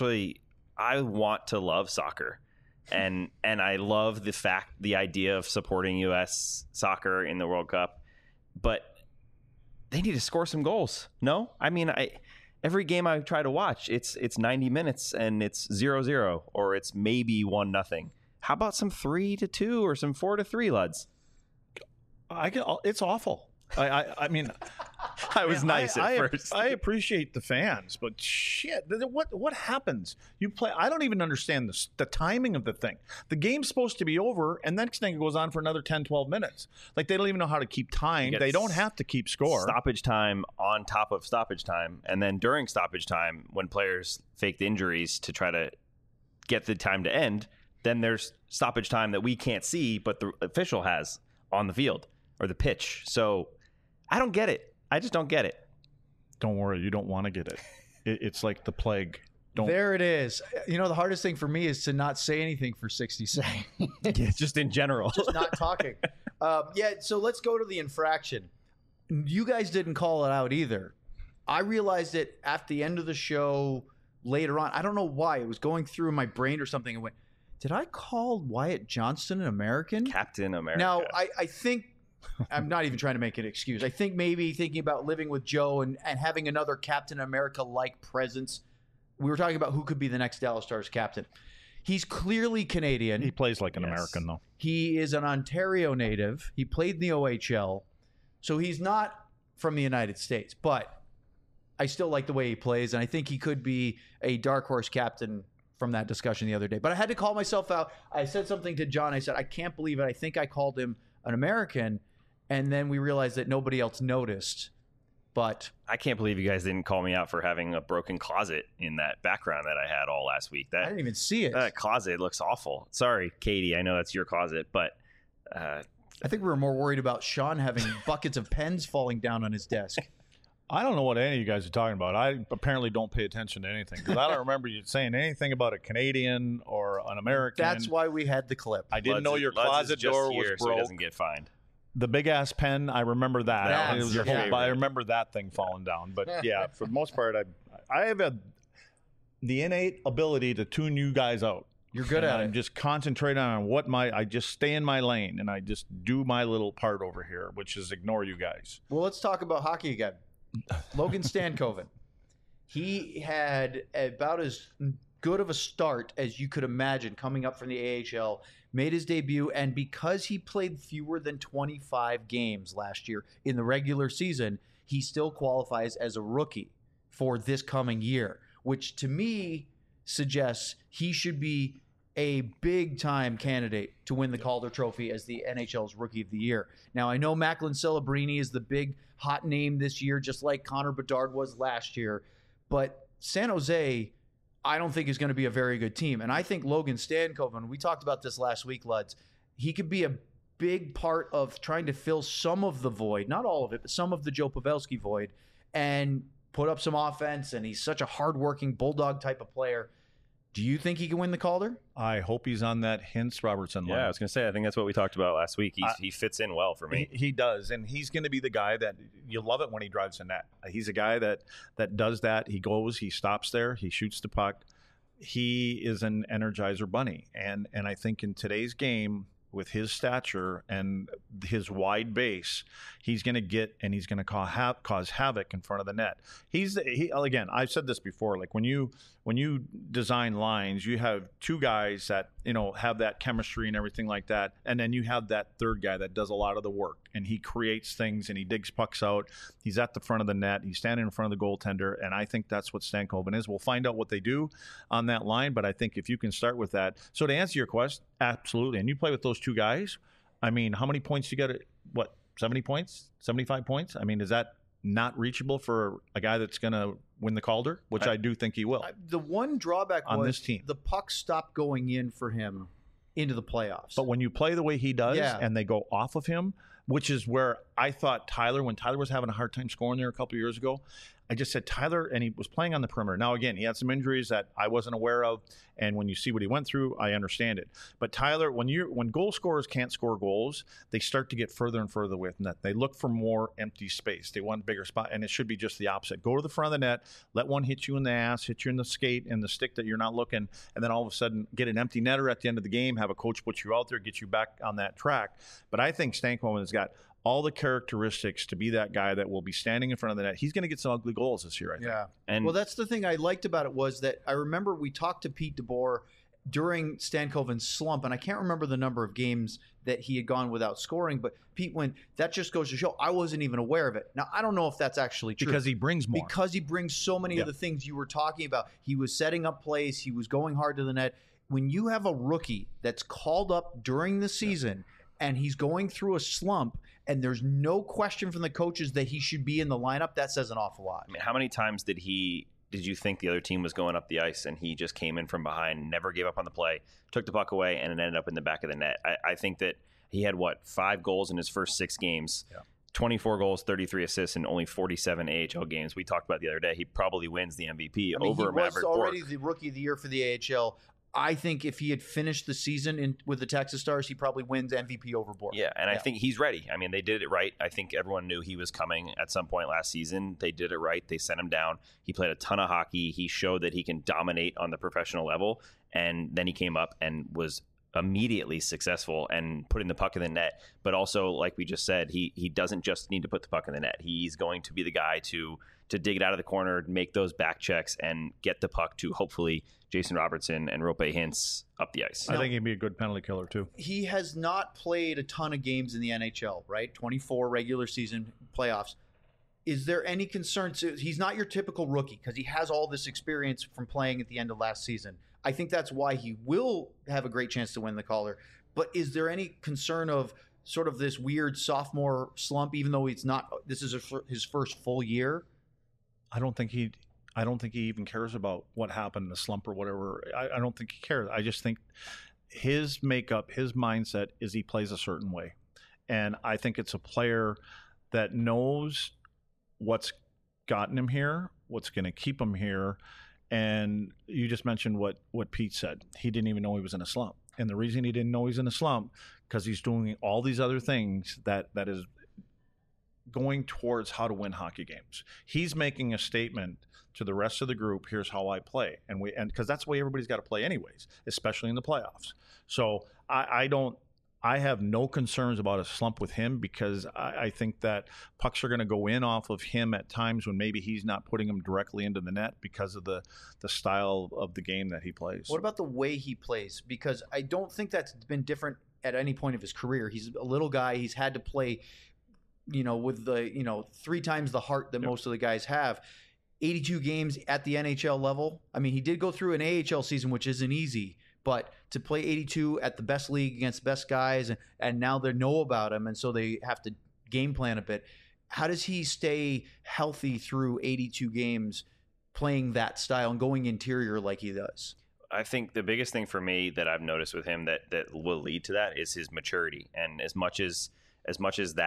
I want to love soccer, and I love the idea of supporting U.S. soccer in the World Cup, but they need to score some goals. No, I mean every game I try to watch, it's 90 minutes and it's 0-0 or it's maybe 1-0. How about some 3-2 or some 4-3, Luds? It's awful. I mean, I was nice at first. I appreciate the fans, but shit, what happens? You play. I don't even understand the timing of the thing. The game's supposed to be over, and next thing it goes on for another 10, 12 minutes. Like, they don't even know how to keep time. They don't have to keep score. Stoppage time on top of stoppage time, and then during stoppage time, when players faked injuries to try to get the time to end, then there's stoppage time that we can't see, but the official has on the field or the pitch. So I don't get it. I just don't get it. Don't worry. You don't want to get it. It's like the plague. There it is. You know, the hardest thing for me is to not say anything for 60 seconds. Yeah, just in general. Just not talking. So let's go to the infraction. You guys didn't call it out either. I realized it at the end of the show later on. I don't know why. It was going through my brain or something. And went, did I call Wyatt Johnston an American? Captain America. Now, I think... I'm not even trying to make an excuse. I think maybe thinking about living with Joe and having another Captain America-like presence. We were talking about who could be the next Dallas Stars captain. He's clearly Canadian. He plays like an American, though. He is an Ontario native. He played in the OHL. So he's not from the United States. But I still like the way he plays, and I think he could be a dark horse captain from that discussion the other day. But I had to call myself out. I said something to John. I said, I can't believe it. I think I called him an American. And then we realized that nobody else noticed. But I can't believe you guys didn't call me out for having a broken closet in that background that I had all last week. I didn't even see it. That closet looks awful. Sorry, Katie. I know that's your closet, but I think we were more worried about Sean having buckets of pens falling down on his desk. I don't know what any of you guys are talking about. I apparently don't pay attention to anything because I don't remember you saying anything about a Canadian or an American. That's why we had the clip. I didn't know your closet door was broke. So he doesn't get fined. The big ass pen, I remember that. It was your favorite. I remember that thing falling down. But yeah, for the most part, I have the innate ability to tune you guys out. You're good at it. I'm just concentrating on I just stay in my lane and I just do my little part over here, which is ignore you guys. Well, let's talk about hockey again. Logan Stankoven. He had about as good of a start as you could imagine coming up from the AHL. Made his debut, and because he played fewer than 25 games last year in the regular season, he still qualifies as a rookie for this coming year, which to me suggests he should be a big-time candidate to win the Calder Trophy as the NHL's Rookie of the Year. Now, I know Macklin Celebrini is the big hot name this year, just like Connor Bedard was last year, but San Jose, I don't think is going to be a very good team. And I think Logan Stankoven, we talked about this last week, Luds, he could be a big part of trying to fill some of the void, not all of it, but some of the Joe Pavelski void. And put up some offense, and he's such a hardworking bulldog type of player. Do you think he can win the Calder? I hope he's on that Hintz-Robertson line. Yeah, I was going to say, I think that's what we talked about last week. He fits in well for me. He does, and he's going to be the guy that you love it when he drives the net. He's a guy that does that. He goes, he stops there, he shoots the puck. He is an Energizer bunny, and I think in today's game, with his stature and his wide base, he's going to get and he's going to cause havoc in front of the net. Again, I've said this before. Like when you design lines, you have two guys that have that chemistry and everything like that, and then you have that third guy that does a lot of the work and he creates things and he digs pucks out. He's at the front of the net. He's standing in front of the goaltender, and I think that's what Stankoven is. We'll find out what they do on that line, but I think if you can start with that. So to answer your question, absolutely. And you play with those two guys. I mean, how many points you got? 70 points? 75 points? I mean, is that not reachable for a guy that's going to win the Calder, which I do think he will. The one drawback on was this team, the puck stopped going in for him into the playoffs. But when you play the way he does and they go off of him, which is where I thought when Tyler was having a hard time scoring there a couple of years ago, I just said Tyler, and he was playing on the perimeter. Now, again, he had some injuries that I wasn't aware of, and when you see what he went through, I understand it. But Tyler, when goal scorers can't score goals, they start to get further and further away from that. They look for more empty space. They want a bigger spot, and it should be just the opposite. Go to the front of the net, let one hit you in the ass, hit you in the skate and the stick that you're not looking, and then all of a sudden get an empty netter at the end of the game, have a coach put you out there, get you back on that track. But I think Stankoven has got all the characteristics to be that guy that will be standing in front of the net. He's going to get some ugly goals this year, I think. Yeah. And well, that's the thing I liked about it was that I remember we talked to Pete DeBoer during Stankoven's slump, and I can't remember the number of games that he had gone without scoring, but Pete went, that just goes to show I wasn't even aware of it. Now, I don't know if that's actually true. Because he brings more. Because he brings so many of the things you were talking about. He was setting up plays. He was going hard to the net. When you have a rookie that's called up during the season and he's going through a slump, and there's no question from the coaches that he should be in the lineup, that says an awful lot. I mean, how many times did you think the other team was going up the ice and he just came in from behind, never gave up on the play, took the puck away, and it ended up in the back of the net? I think that he had, 5 goals in his first 6 games, 24 goals, 33 assists, and only 47 AHL games. We talked about the other day. He probably wins the MVP over Maverick He was already Bourque. the Rookie of the Year for the AHL. I think if he had finished the season with the Texas Stars, he probably wins MVP over Bourque. Yeah, and I think he's ready. I mean, they did it right. I think everyone knew he was coming at some point last season. They did it right. They sent him down. He played a ton of hockey. He showed that he can dominate on the professional level, and then he came up and was immediately successful and putting the puck in the net. But also, like we just said, he doesn't just need to put the puck in the net. He's going to be the guy to dig it out of the corner, make those back checks, and get the puck to hopefully Jason Robertson and Rope Hintz up the ice. I think he'd be a good penalty killer too. He has not played a ton of games in the NHL, right? 24 regular season playoffs. Is there any concern? He's not your typical rookie because he has all this experience from playing at the end of last season. I think that's why he will have a great chance to win the Calder. But is there any concern of sort of this weird sophomore slump, even though it's not? This is his first full year. I don't think he even cares about what happened in the slump or whatever. I don't think he cares. I just think his makeup, his mindset is he plays a certain way. And I think it's a player that knows what's gotten him here, what's going to keep him here. And you just mentioned what Pete said. He didn't even know he was in a slump. And the reason he didn't know he's in a slump, because he's doing all these other things that is going towards how to win hockey games. He's making a statement to the rest of the group, here's how I play. And because that's the way everybody's got to play anyways, especially in the playoffs. So I have no concerns about a slump with him, because I think that pucks are going to go in off of him at times when maybe he's not putting them directly into the net because of the style of the game that he plays. What about the way he plays? Because I don't think that's been different at any point of his career. He's a little guy. He's had to play, with the, 3 times the heart that most of the guys have. 82 games at the NHL level. I mean, he did go through an AHL season, which isn't easy, but to play 82 at the best league against the best guys, and now they know about him, and so they have to game plan a bit. How does he stay healthy through 82 games playing that style and going interior like he does? I think the biggest thing for me that I've noticed with him that will lead to that is his maturity. And as much as that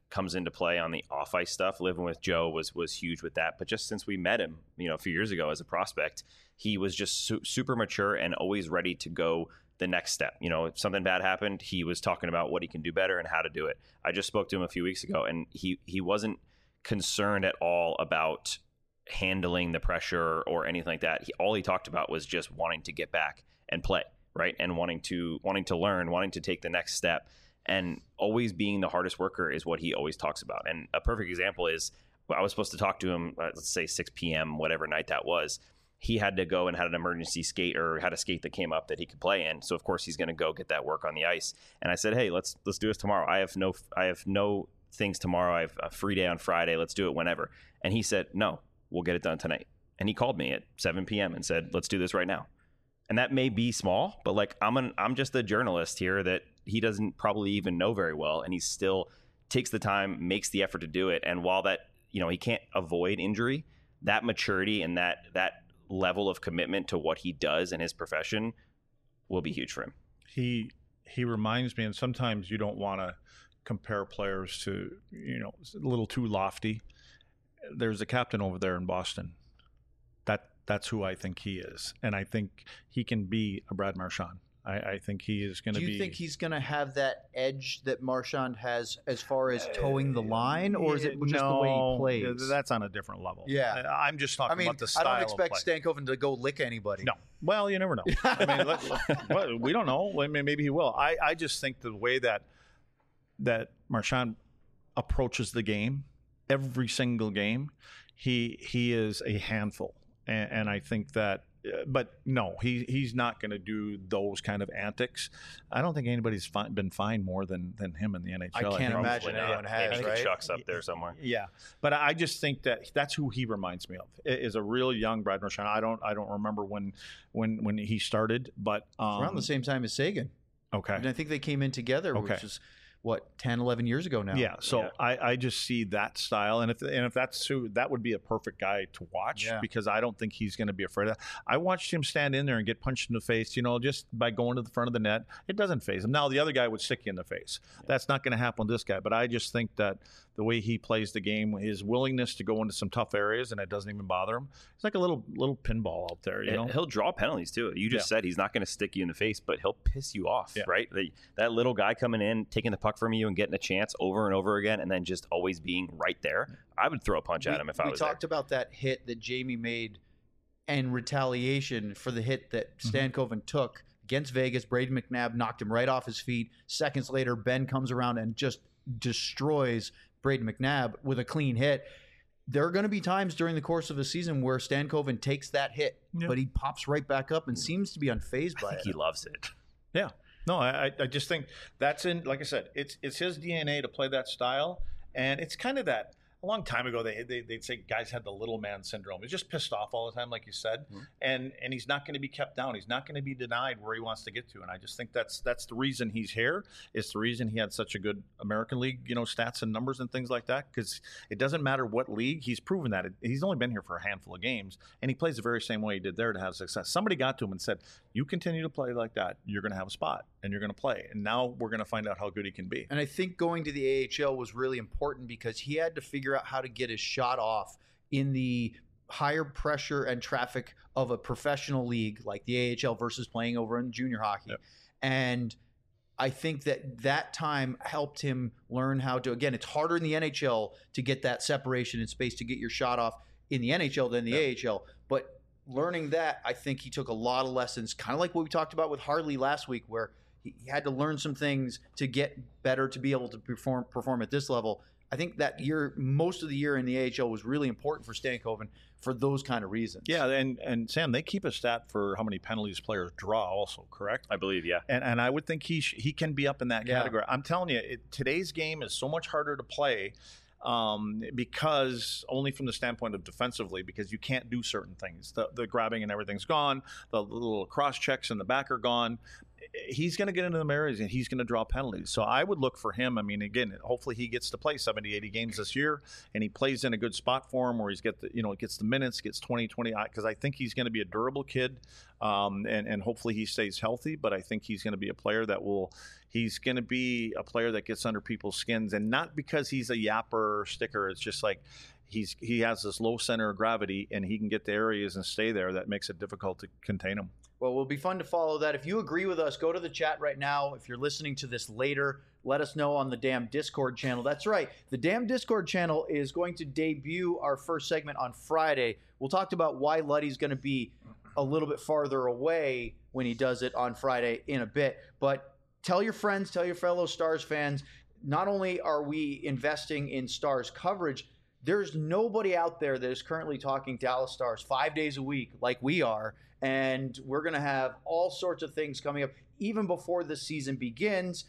comes into play on the off ice stuff. Living with Joe was huge with that. But just since we met him, a few years ago as a prospect, he was just super mature and always ready to go the next step. If something bad happened, he was talking about what he can do better and how to do it. I just spoke to him a few weeks ago, and he wasn't concerned at all about handling the pressure or anything like that. All he talked about was just wanting to get back and play, right? And wanting to learn, wanting to take the next step, and always being the hardest worker is what he always talks about. And a perfect example is, I was supposed to talk to him, let's say 6 p.m., whatever night that was. He had to go and had an emergency skate or had a skate that came up that he could play in. So of course he's going to go get that work on the ice. And I said, hey, let's do this tomorrow. I have no things tomorrow. I have a free day on Friday. Let's do it whenever. And he said, no, we'll get it done tonight. And he called me at 7 p.m. and said, let's do this right now. And that may be small, but like I'm just a journalist here that he doesn't probably even know very well. And he still takes the time, makes the effort to do it. And while that, he can't avoid injury, that maturity and that level of commitment to what he does in his profession will be huge for him. He reminds me, and sometimes you don't want to compare players to, a little too lofty. There's a captain over there in Boston. That's who I think he is. And I think he can be a Brad Marchand. I think he is going to be. Do you think he's going to have that edge that Marchand has as far as towing the line, or is it just the way he plays? That's on a different level. Yeah. I'm just talking about the style. I don't expect of play. Stankoven to go lick anybody. No. Well, you never know. We don't know. I mean, maybe he will. I just think the way that Marchand approaches the game, every single game, he is a handful. And I think that, but no, he's not going to do those kind of antics. I don't think anybody's been fined more than him in the NHL. I can't imagine anyone has, maybe right? Chuck's up there somewhere. Yeah, but I just think that's who he reminds me of. Is a real young Brad Marchand. I don't remember when he started, but around the same time as Sagan. Okay, and I think they came in together, which is 10, 11 years ago now. Yeah, so I just see that style, and if that's who, that would be a perfect guy to watch because I don't think he's going to be afraid of that. I watched him stand in there and get punched in the face, just by going to the front of the net. It doesn't faze him. Now the other guy would stick you in the face. That's not going to happen with this guy, but I just think that the way he plays the game, his willingness to go into some tough areas, and it doesn't even bother him. It's like a little pinball out there, He'll draw penalties too. You just said he's not going to stick you in the face, but he'll piss you off, right? That little guy coming in, taking the puck from you and getting a chance over and over again, and then just always being right there. I would throw a punch at him if I was there. We talked about that hit that Jamie made and retaliation for the hit that Stankoven took against Vegas. Brayden McNabb knocked him right off his feet. Seconds later, Ben comes around and just destroys Brayden McNabb with a clean hit. There are going to be times during the course of a season where Stankoven takes that hit, but he pops right back up and seems to be unfazed by it. He loves it. Yeah. No, I just think that's in, like I said, it's his DNA to play that style. And it's kind of that, a long time ago, they'd say guys had the little man syndrome. He's just pissed off all the time, like you said, and he's not going to be kept down. He's not going to be denied where he wants to get to. And I just think that's the reason he's here. It's the reason he had such a good American League, stats and numbers and things like that. Because it doesn't matter what league. He's proven that. He's only been here for a handful of games, and he plays the very same way he did there to have success. Somebody got to him and said, "You continue to play like that, you're going to have a spot, and you're going to play." And now we're going to find out how good he can be. And I think going to the AHL was really important because he had to figure out how to get his shot off in the higher pressure and traffic of a professional league like the AHL versus playing over in junior hockey. Yep. And I think that time helped him learn how to, again, it's harder in the NHL to get that separation in space to get your shot off in the NHL than the AHL. But learning that, I think he took a lot of lessons, kind of like what we talked about with Harley last week, where he had to learn some things to get better to be able to perform at this level. I think that year, most of the year in the AHL was really important for Stankoven for those kind of reasons. Yeah, and Sam, they keep a stat for how many penalties players draw also, correct? I believe, yeah. And I would think he can be up in that category. I'm telling you, today's game is so much harder to play because only from the standpoint of defensively, because you can't do certain things. The grabbing and everything's gone. The little cross checks in the back are gone. he's going to get into the areas and he's going to draw penalties. So I would look for him. I mean, again, hopefully he gets to play 70, 80 games this year, and he plays in a good spot for him where he's gets the minutes, gets 20, because I think he's going to be a durable kid, and hopefully he stays healthy. But I think he's going to be a player that gets under people's skins, and not because he's a yapper or sticker. It's just like he has this low center of gravity, and he can get to areas and stay there that makes it difficult to contain him. Well, it will be fun to follow that. If you agree with us, go to the chat right now. If you're listening to this later, let us know on the damn Discord channel. That's right. The damn Discord channel is going to debut our first segment on Friday. We'll talk about why Luddy's going to be a little bit farther away when he does it on Friday in a bit. But tell your friends, tell your fellow Stars fans, not only are we investing in Stars coverage, there's nobody out there that is currently talking Dallas Stars 5 days a week like we are. And we're going to have all sorts of things coming up even before the season begins.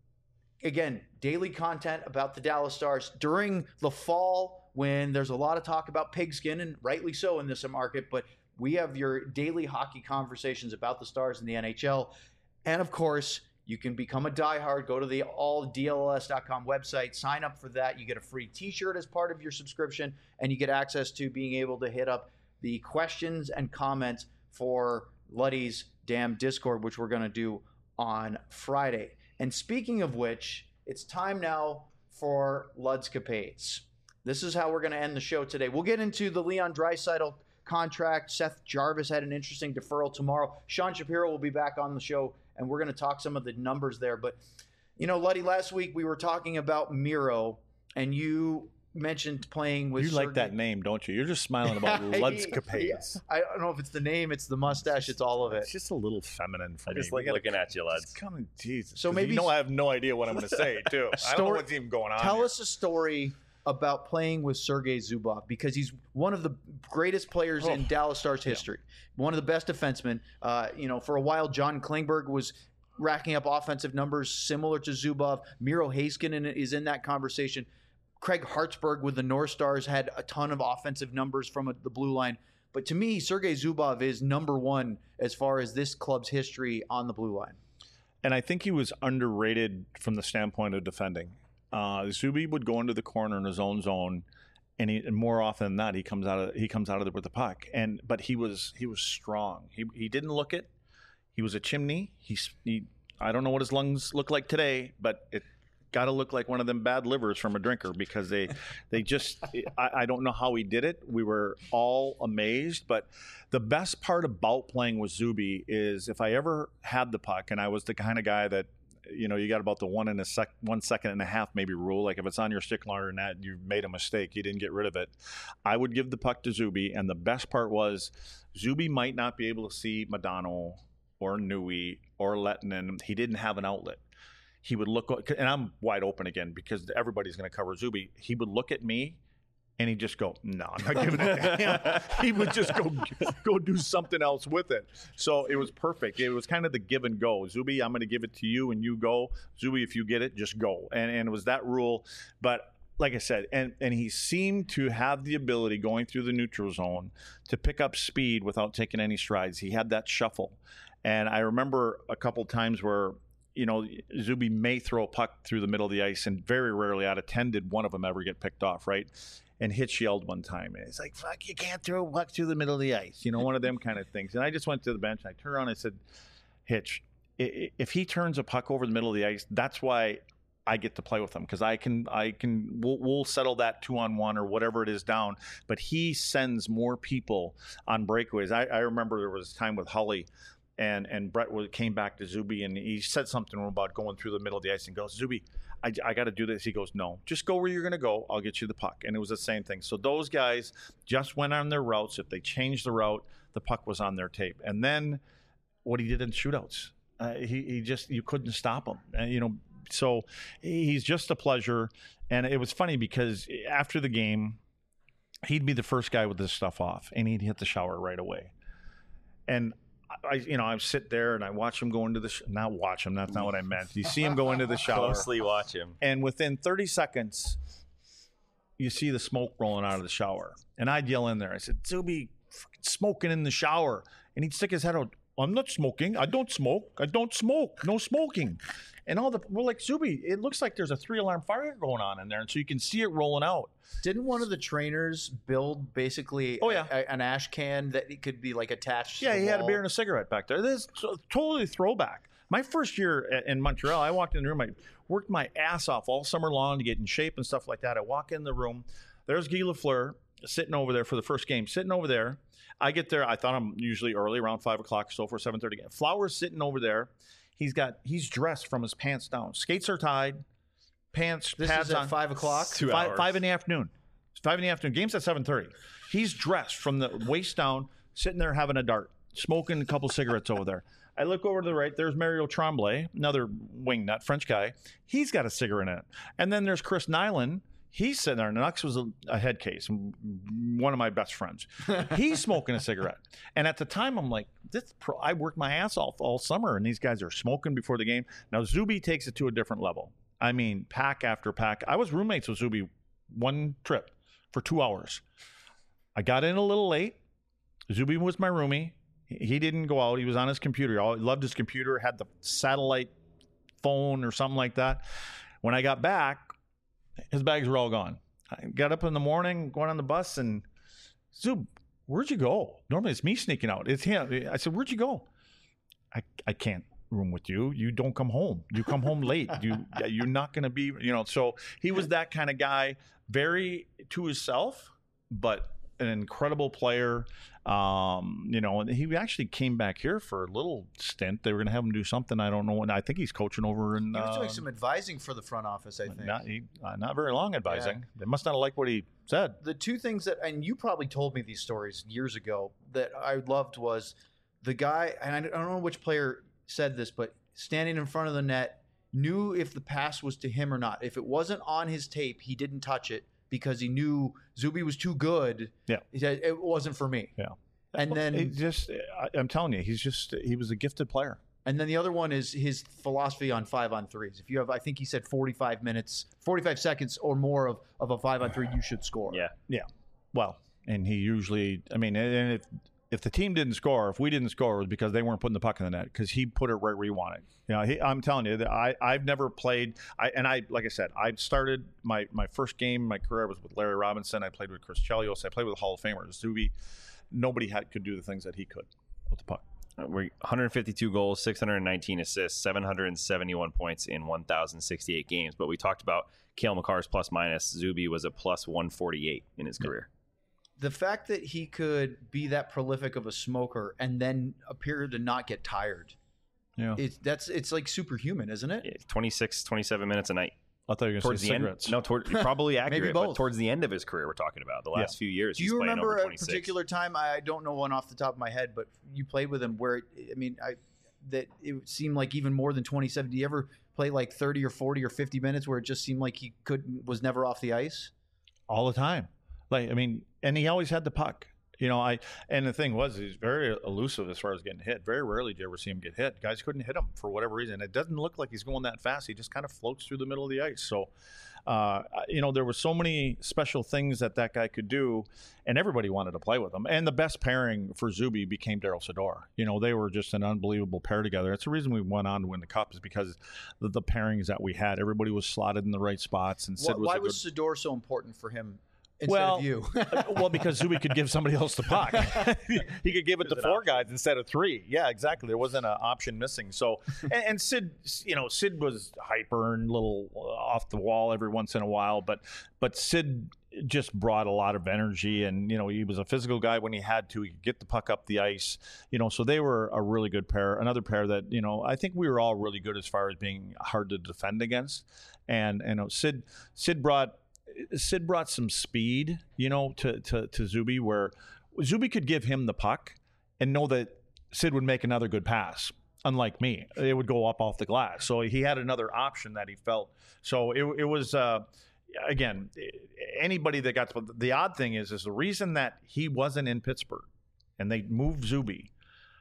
Again, daily content about the Dallas Stars during the fall when there's a lot of talk about pigskin, and rightly so in this market. But we have your daily hockey conversations about the Stars in the NHL. And, of course, you can become a diehard. Go to the alldls.com website. Sign up for that. You get a free T-shirt as part of your subscription, and you get access to being able to hit up the questions and comments for Luddy's damn Discord, which we're going to do on Friday. And speaking of which, it's time now for Ludscapades. This is how we're going to end the show today. We'll get into the Leon Draisaitl contract. Seth Jarvis had an interesting deferral tomorrow. Sean Shapiro will be back on the show, and we're going to talk some of the numbers there. But, Luddy, last week we were talking about Miro, and you mentioned playing with like that name, don't you? You're just smiling about Ludscapades. I don't know if it's the name, it's the mustache, it's all of it. It's just a little feminine for me. I just like looking at you, Luds. Jesus. So maybe I have no idea what I'm going to say, too. I don't know what's even going on. Tell us a story about playing with Sergei Zubov, because he's one of the greatest players in Dallas Stars history. One of the best defensemen. For a while, John Klingberg was racking up offensive numbers similar to Zubov. Miro Heiskanen is in that conversation. Craig Hartsburg with the North Stars had a ton of offensive numbers from the blue line. But to me, Sergei Zubov is number one as far as this club's history on the blue line. And I think he was underrated from the standpoint of defending. Zuby would go into the corner in his own zone, and more often than not, he comes out of there with the puck. But he was strong. He didn't look it. He was a chimney. I don't know what his lungs look like today, but it got to look like one of them bad livers from a drinker, because they just I don't know how he did it. We were all amazed. But the best part about playing with Zuby is if I ever had the puck, and I was the kind of guy that, you got about the 1 second and a half maybe rule. Like if it's on your stick longer than that, you've made a mistake. You didn't get rid of it. I would give the puck to Zuby, and the best part was Zuby might not be able to see Modano or Nui or Lettinen. He didn't have an outlet. He would look, and I'm wide open again because everybody's going to cover Zuby. He would look at me, and he'd just go, "No, I'm not giving it to him." He would just go do something else with it. So it was perfect. It was kind of the give and go. Zuby, I'm going to give it to you, and you go. Zuby, if you get it, just go. And it was that rule. But like I said, and he seemed to have the ability going through the neutral zone to pick up speed without taking any strides. He had that shuffle. And I remember a couple times where, Zuby may throw a puck through the middle of the ice, and very rarely out of 10 did one of them ever get picked off, right? And Hitch yelled one time, and it's like, "Fuck, you can't throw a puck through the middle of the ice." One of them kind of things. And I just went to the bench, and I turned around and I said, "Hitch, if he turns a puck over the middle of the ice, that's why I get to play with him, because we'll settle that 2-on-1 or whatever it is down. But he sends more people on breakaways." I remember there was a time with Hully, and Brett came back to Zuby, and he said something about going through the middle of the ice, and goes, "Zuby, I got to do this." He goes, "No, just go where you're going to go. I'll get you the puck." And it was the same thing. So those guys just went on their routes. If they changed the route, the puck was on their tape. And then what he did in shootouts, you couldn't stop him. And, so he's just a pleasure. And it was funny because after the game, he'd be the first guy with this stuff off, and he'd hit the shower right away. And I sit there and I watch him go into not watch him. That's not what I meant. You see him go into the shower. Closely watch him. And within 30 seconds, you see the smoke rolling out of the shower. And I'd yell in there. I said, "Zuby, smoking in the shower." And he'd stick his head out. I'm not smoking. I don't smoke. I don't smoke. No smoking. And we're like, Zuby, it looks like there's a 3-alarm fire going on in there. And so you can see it rolling out. Didn't one of the trainers build basically an ash can that it could be like attached? Yeah, to the he had a wall? beer and a cigarette back there. This is totally throwback. My first year in Montreal, I walked in the room. I worked my ass off all summer long to get in shape and stuff like that. I walk in the room. There's Guy Lafleur sitting over there for the first game, sitting over there. I get there. I thought I'm usually early, around 5 o'clock, so for 7:30. Flowers sitting over there. He's dressed from his pants down. Skates are tied, pads is at on. 5 o'clock? 2 hours. 5 in the afternoon. It's 5 in the afternoon. Game's at 7:30. He's dressed from the waist down, sitting there having a dart, smoking a couple cigarettes over there. I look over to the right. There's Mario Tremblay, another wingnut French guy. He's got a cigarette in it. And then there's Chris Nyland. He's sitting there. Nux was a head case, one of my best friends. He's smoking a cigarette. And at the time, I'm like, I worked my ass off all summer, and these guys are smoking before the game. Now, Zuby takes it to a different level. I mean, pack after pack. I was roommates with Zuby one trip for 2 hours. I got in a little late. Zuby was my roomie. He didn't go out. He was on his computer. He loved his computer, had the satellite phone or something like that. When I got back, his bags were all gone. I got up in the morning, going on the bus, and Zub, where'd you go? Normally it's me sneaking out. It's him. I said, where'd you go? I can't room with you. You don't come home. You come home late. You're not going to be, So he was that kind of guy, very to himself, but an incredible player. And he actually came back here for a little stint. They were going to have him do something. I don't know. And I think he's coaching over in. He was doing some advising for the front office, I think. Not very long advising. Yeah. They must not have liked what he said. The two things and you probably told me these stories years ago that I loved was the guy, and I don't know which player said this, but standing in front of the net, knew if the pass was to him or not. If it wasn't on his tape, he didn't touch it because he knew Zuby was too good. Yeah. He said, it wasn't for me. Yeah. And then I'm telling you, he was a gifted player. And then the other one is his philosophy on 5-on-3s. If you have, I think he said 45 seconds or more of a 5-on-3, you should score. Yeah. Yeah. Well, and he usually, and if the team didn't score, if we didn't score, it was because they weren't putting the puck in the net because he put it right where he wanted. I'm telling you that I've never played. Like I said, I started my first game, my career was with Larry Robinson. I played with Chris Chelios. I played with Hall of Famers. Zuby, nobody could do the things that he could with the puck. We're 152 goals, 619 assists, 771 points in 1,068 games. But we talked about Cale Makar's plus minus. Zuby was a plus 148 in his career. The fact that he could be that prolific of a smoker and then appear to not get tired, it's like superhuman, isn't it? Yeah, 26, 27 minutes a night. I thought you were going to say cigarettes. Probably accurate. Maybe both. But towards the end of his career, we're talking about the last few years. Do you remember a particular time? I don't know one off the top of my head, but you played with him where that it seemed like even more than 27. Do you ever play like 30 or 40 or 50 minutes where it just seemed like he was never off the ice? All the time. And he always had the puck. And the thing was, he's very elusive as far as getting hit. Very rarely do you ever see him get hit. Guys couldn't hit him for whatever reason. It doesn't look like he's going that fast. He just kind of floats through the middle of the ice. So, there were so many special things that guy could do, and everybody wanted to play with him. And the best pairing for Zuby became Daryl Sador. They were just an unbelievable pair together. It's the reason we went on to win the Cup is because the pairings that we had. Everybody was slotted in the right spots. And Sid why was Sador so important for him? Instead of you. Because Zuby could give somebody else the puck. He could give it to 4 guys instead of 3. Yeah, exactly. There wasn't an option missing. So, and Sid, Sid was hyper and a little off the wall every once in a while, but Sid just brought a lot of energy, and he was a physical guy when he had to. He could get the puck up the ice. So they were a really good pair. Another pair that I think we were all really good as far as being hard to defend against. And Sid brought some speed, to Zuby, where Zuby could give him the puck and know that Sid would make another good pass. Unlike me, it would go up off the glass. So he had another option that he felt. So it was, again, anybody that got the odd thing is the reason that he wasn't in Pittsburgh and they moved Zuby.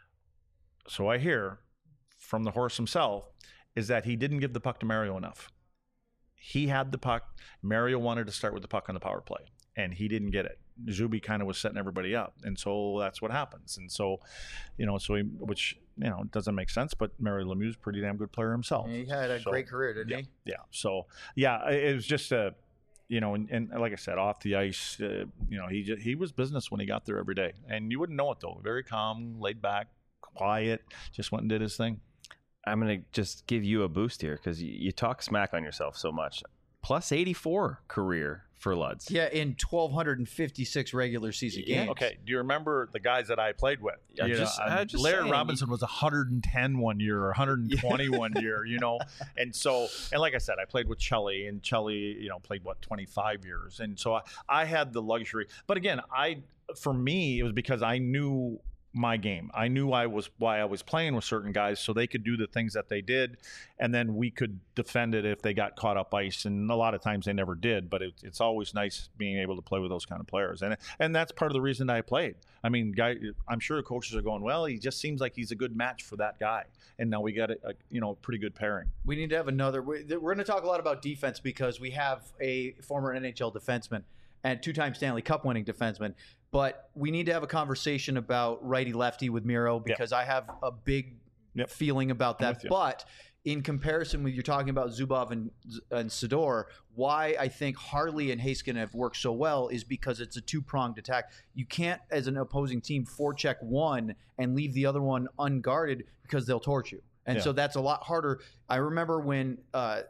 So I hear from the horse himself is that he didn't give the puck to Mario enough. He had the puck. Mario wanted to start with the puck on the power play. and he didn't get it. Zuby kind of was setting everybody up, and so that's what happens. And so, which doesn't make sense, but Mario Lemieux's a pretty damn good player himself. He had a great career, didn't he? Yeah. So it was just and like I said, off the ice, he was business when he got there every day, and you wouldn't know it though. Very calm, laid back, quiet, just went and did his thing. I'm going to just give you a boost here because you talk smack on yourself so much. Plus 84 career for Luds. Yeah, in 1,256 regular season games. Okay, do you remember the guys that I played with? Just Larry saying. Robinson was 110 one year or 120 one year, and like I said, I played with Chelly, and Chelly, played 25 years, and so I had the luxury. But again, for me, it was because I knew my game. I knew why I was playing with certain guys, so they could do the things that they did, and then we could defend it if they got caught up ice. And a lot of times they never did, but it's always nice being able to play with those kind of players, and that's part of the reason I played. I mean, I'm sure the coaches are going, well, he just seems like he's a good match for that guy, and now we got a pretty good pairing. We need to have another. We're going to talk a lot about defense because we have a former NHL defenseman and two-time Stanley Cup winning defenseman. But we need to have a conversation about righty-lefty with Miro because I have a big feeling about that. But in comparison with you're talking about Zubov and Sador, why I think Harley and Heiskanen have worked so well is because it's a two-pronged attack. You can't, as an opposing team, forecheck one and leave the other one unguarded because they'll torch you. And so that's a lot harder. I remember when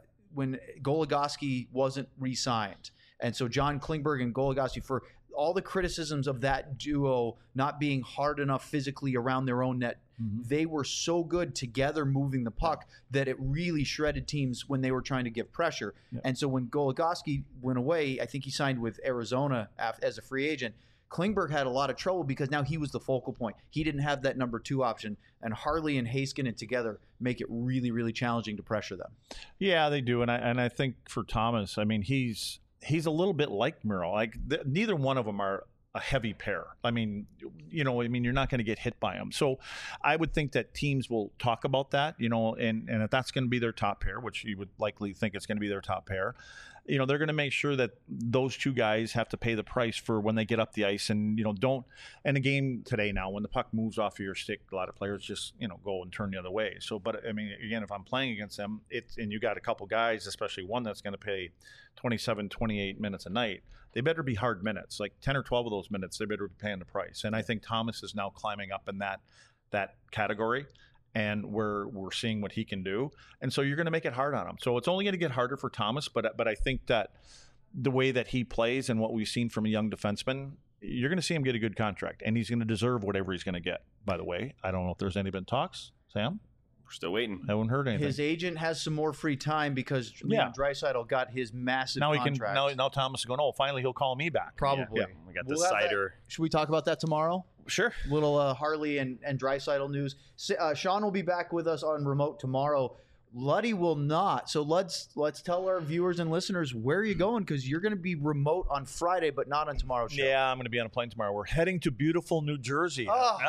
Goligoski wasn't re-signed. And so John Klingberg and Goligoski, for all the criticisms of that duo not being hard enough physically around their own net, they were so good together moving the puck that it really shredded teams when they were trying to give pressure. And so when Goligoski went away, I think he signed with Arizona as a free agent. Klingberg had a lot of trouble because now he was the focal point. He didn't have that number two option, and Harley and Heiskanen together make it really, really challenging to pressure them. Yeah, they do, and I think for Thomas, I mean, he's a little bit like Miro. Like neither one of them are a heavy pair. I mean, you're not going to get hit by them. So I would think that teams will talk about that, and if that's going to be their top pair, which you would likely think it's going to be their top pair, they're going to make sure that those two guys have to pay the price for when they get up the ice and, and a game today now, when the puck moves off of your stick, a lot of players just, go and turn the other way. So, but I mean, again, if I'm playing against them, and you got a couple guys, especially one that's going to play 27, 28 minutes a night, they better be hard minutes, like 10 or 12 of those minutes, they better be paying the price. And I think Thomas is now climbing up in that category. And we're seeing what he can do. And so you're going to make it hard on him. So it's only going to get harder for Thomas, but I think that the way that he plays and what we've seen from a young defenseman, you're going to see him get a good contract. And he's going to deserve whatever he's going to get, by the way. I don't know if there's been talks. Sam? We're still waiting. I haven't heard anything. His agent has some more free time because Draisaitl got his massive contract. Now Thomas is going, finally he'll call me back. Probably. Yeah. We got the cider. Should we talk about that tomorrow? Sure. Little Harley and Draisaitl news. Sean will be back with us on remote tomorrow. Luddy will not. So let's tell our viewers and listeners where you're going, because you're going to be remote on Friday, but not on tomorrow's show. Yeah, I'm going to be on a plane tomorrow. We're heading to beautiful New Jersey.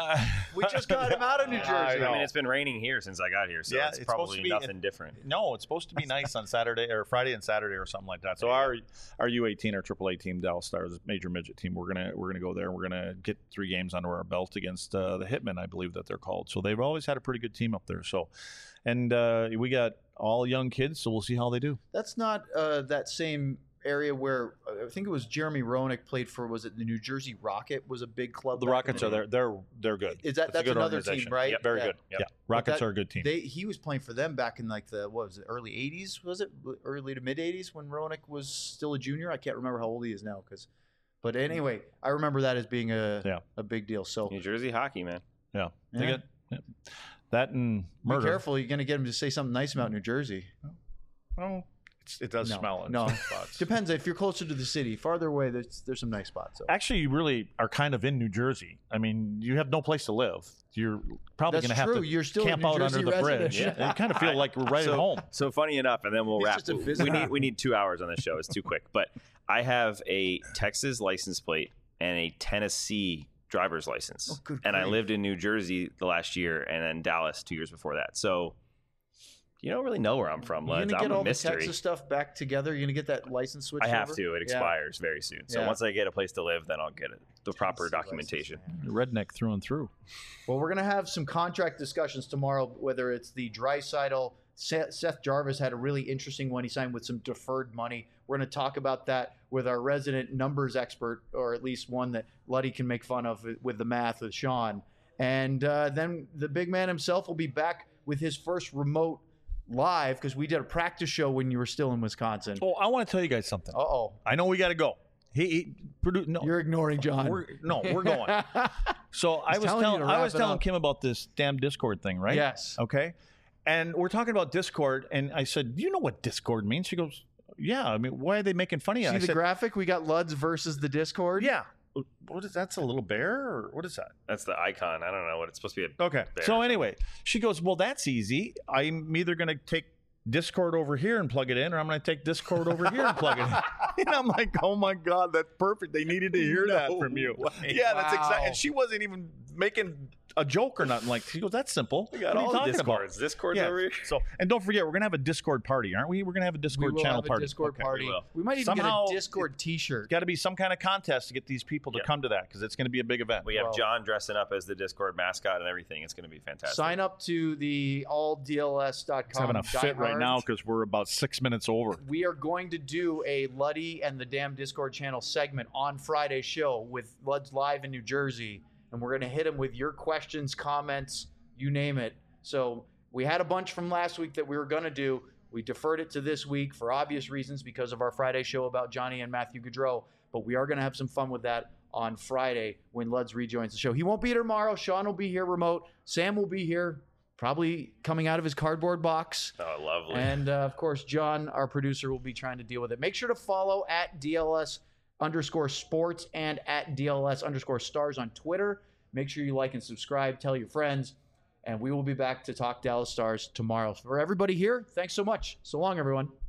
We just got him out of New Jersey. I mean, it's been raining here since I got here, so it's probably nothing different. No, it's supposed to be nice on Saturday or Friday and Saturday or something like that. So our U18, our AAA team, Dallas Stars, major midget team, we're gonna go there. We're gonna get 3 games under our belt against the Hitmen, I believe that they're called. So they've always had a pretty good team up there. So. And we got all young kids, so we'll see how they do. That's not that same area where I think it was Jeremy Roenick played for. Was it the New Jersey Rocket? Was a big club. The Rockets are there. They're good. Is that's another team, right? Yep, very good. Yep. Yeah, Rockets are a good team. He was playing for them back in like the early '80s? Was it early to mid '80s when Roenick was still a junior? I can't remember how old he is now. But anyway, I remember that as being a big deal. So New Jersey hockey, man. Yeah. They get. That and murder. Be careful. You're going to get him to say something nice about New Jersey. Well, it does smell in some spots. Depends. If you're closer to the city, farther away, there's some nice spots. So. Actually, you really are kind of in New Jersey. I mean, you have no place to live. You're probably going to have to You're still camp out under the bridge. Yeah. You kind of feel like we're right at home. So funny enough, and then we'll wrap. We need 2 hours on this show. It's too quick. But I have a Texas license plate and a Tennessee driver's license, and I lived in New Jersey the last year, and then Dallas 2 years before that. So You don't really know where I'm from, You're Lens. gonna get I'm all a mystery. the Texas stuff back together. You're gonna get that license switch. I have over? to. It expires very soon. So Yeah. once I get a place to live, then I'll get it. The proper Tennessee documentation. license, Redneck through and through. Well, we're gonna have some contract discussions tomorrow. Whether it's the Draisaitl, Seth Jarvis had a really interesting one. He signed with some deferred money. We're gonna talk about that with our resident numbers expert, or at least one that Luddy can make fun of with the math with Sean. And then the big man himself will be back with his first remote live, because we did a practice show when you were still in Wisconsin. Oh, I want to tell you guys something. Uh-oh. I know we got to go. No, You're ignoring John. we're going. So I was telling you to I wrap was it telling up. Kim about this damn Discord thing, right? Yes. Okay. And we're talking about Discord, and I said, "Do you know what Discord means?" She goes, "Yeah." I mean, why are they making fun of you? See I the said, graphic? We got Luds versus the Discord. "Yeah." What is that's a little bear, or what is that? That's the icon. I don't know what it's supposed to be. Okay. Bear So or anyway, she goes, "Well, that's easy. I'm either going to take Discord over here and plug it in, or I'm going to take Discord over here and plug it in." And I'm like, "Oh my god, that's perfect. They needed to hear that from you." Yeah, that's Wow. exactly. And she wasn't even making a joke or nothing. Like, she goes, "That's simple. We got what are you all talking Discords. about?" Discords Yeah. over here. So, and don't forget, we're going to have a Discord party, aren't we? We're going to have a We Discord will channel have a party. Discord Okay. party. we will. We might even Somehow- get a Discord T-shirt. Got to be some kind of contest to get these people to Yeah. come to that, because it's going to be a big event. We have Well- John dressing up as the Discord mascot and everything. It's going to be fantastic. Sign up to the alldls.com. It's having a fit right diehard. now because we're about 6 minutes over. We are going to do a Luddy and the Damn Discord channel segment on Friday's show with Luds live in New Jersey, and we're going to hit him with your questions, comments, you name it. So we had a bunch from last week that we were going to do. We deferred it to this week for obvious reasons because of our Friday show about Johnny and Matthew Gaudreau, but we are going to have some fun with that on Friday when Luds rejoins the show. He won't be here tomorrow. Sean will be here remote. Sam will be here, probably coming out of his cardboard box. Oh, lovely. And of course, John, our producer, will be trying to deal with it. Make sure to follow at DLS_sports and at DLS_stars on Twitter. Make sure you like and subscribe. Tell your friends. And we will be back to talk Dallas Stars tomorrow. For everybody here, thanks so much. So long, everyone.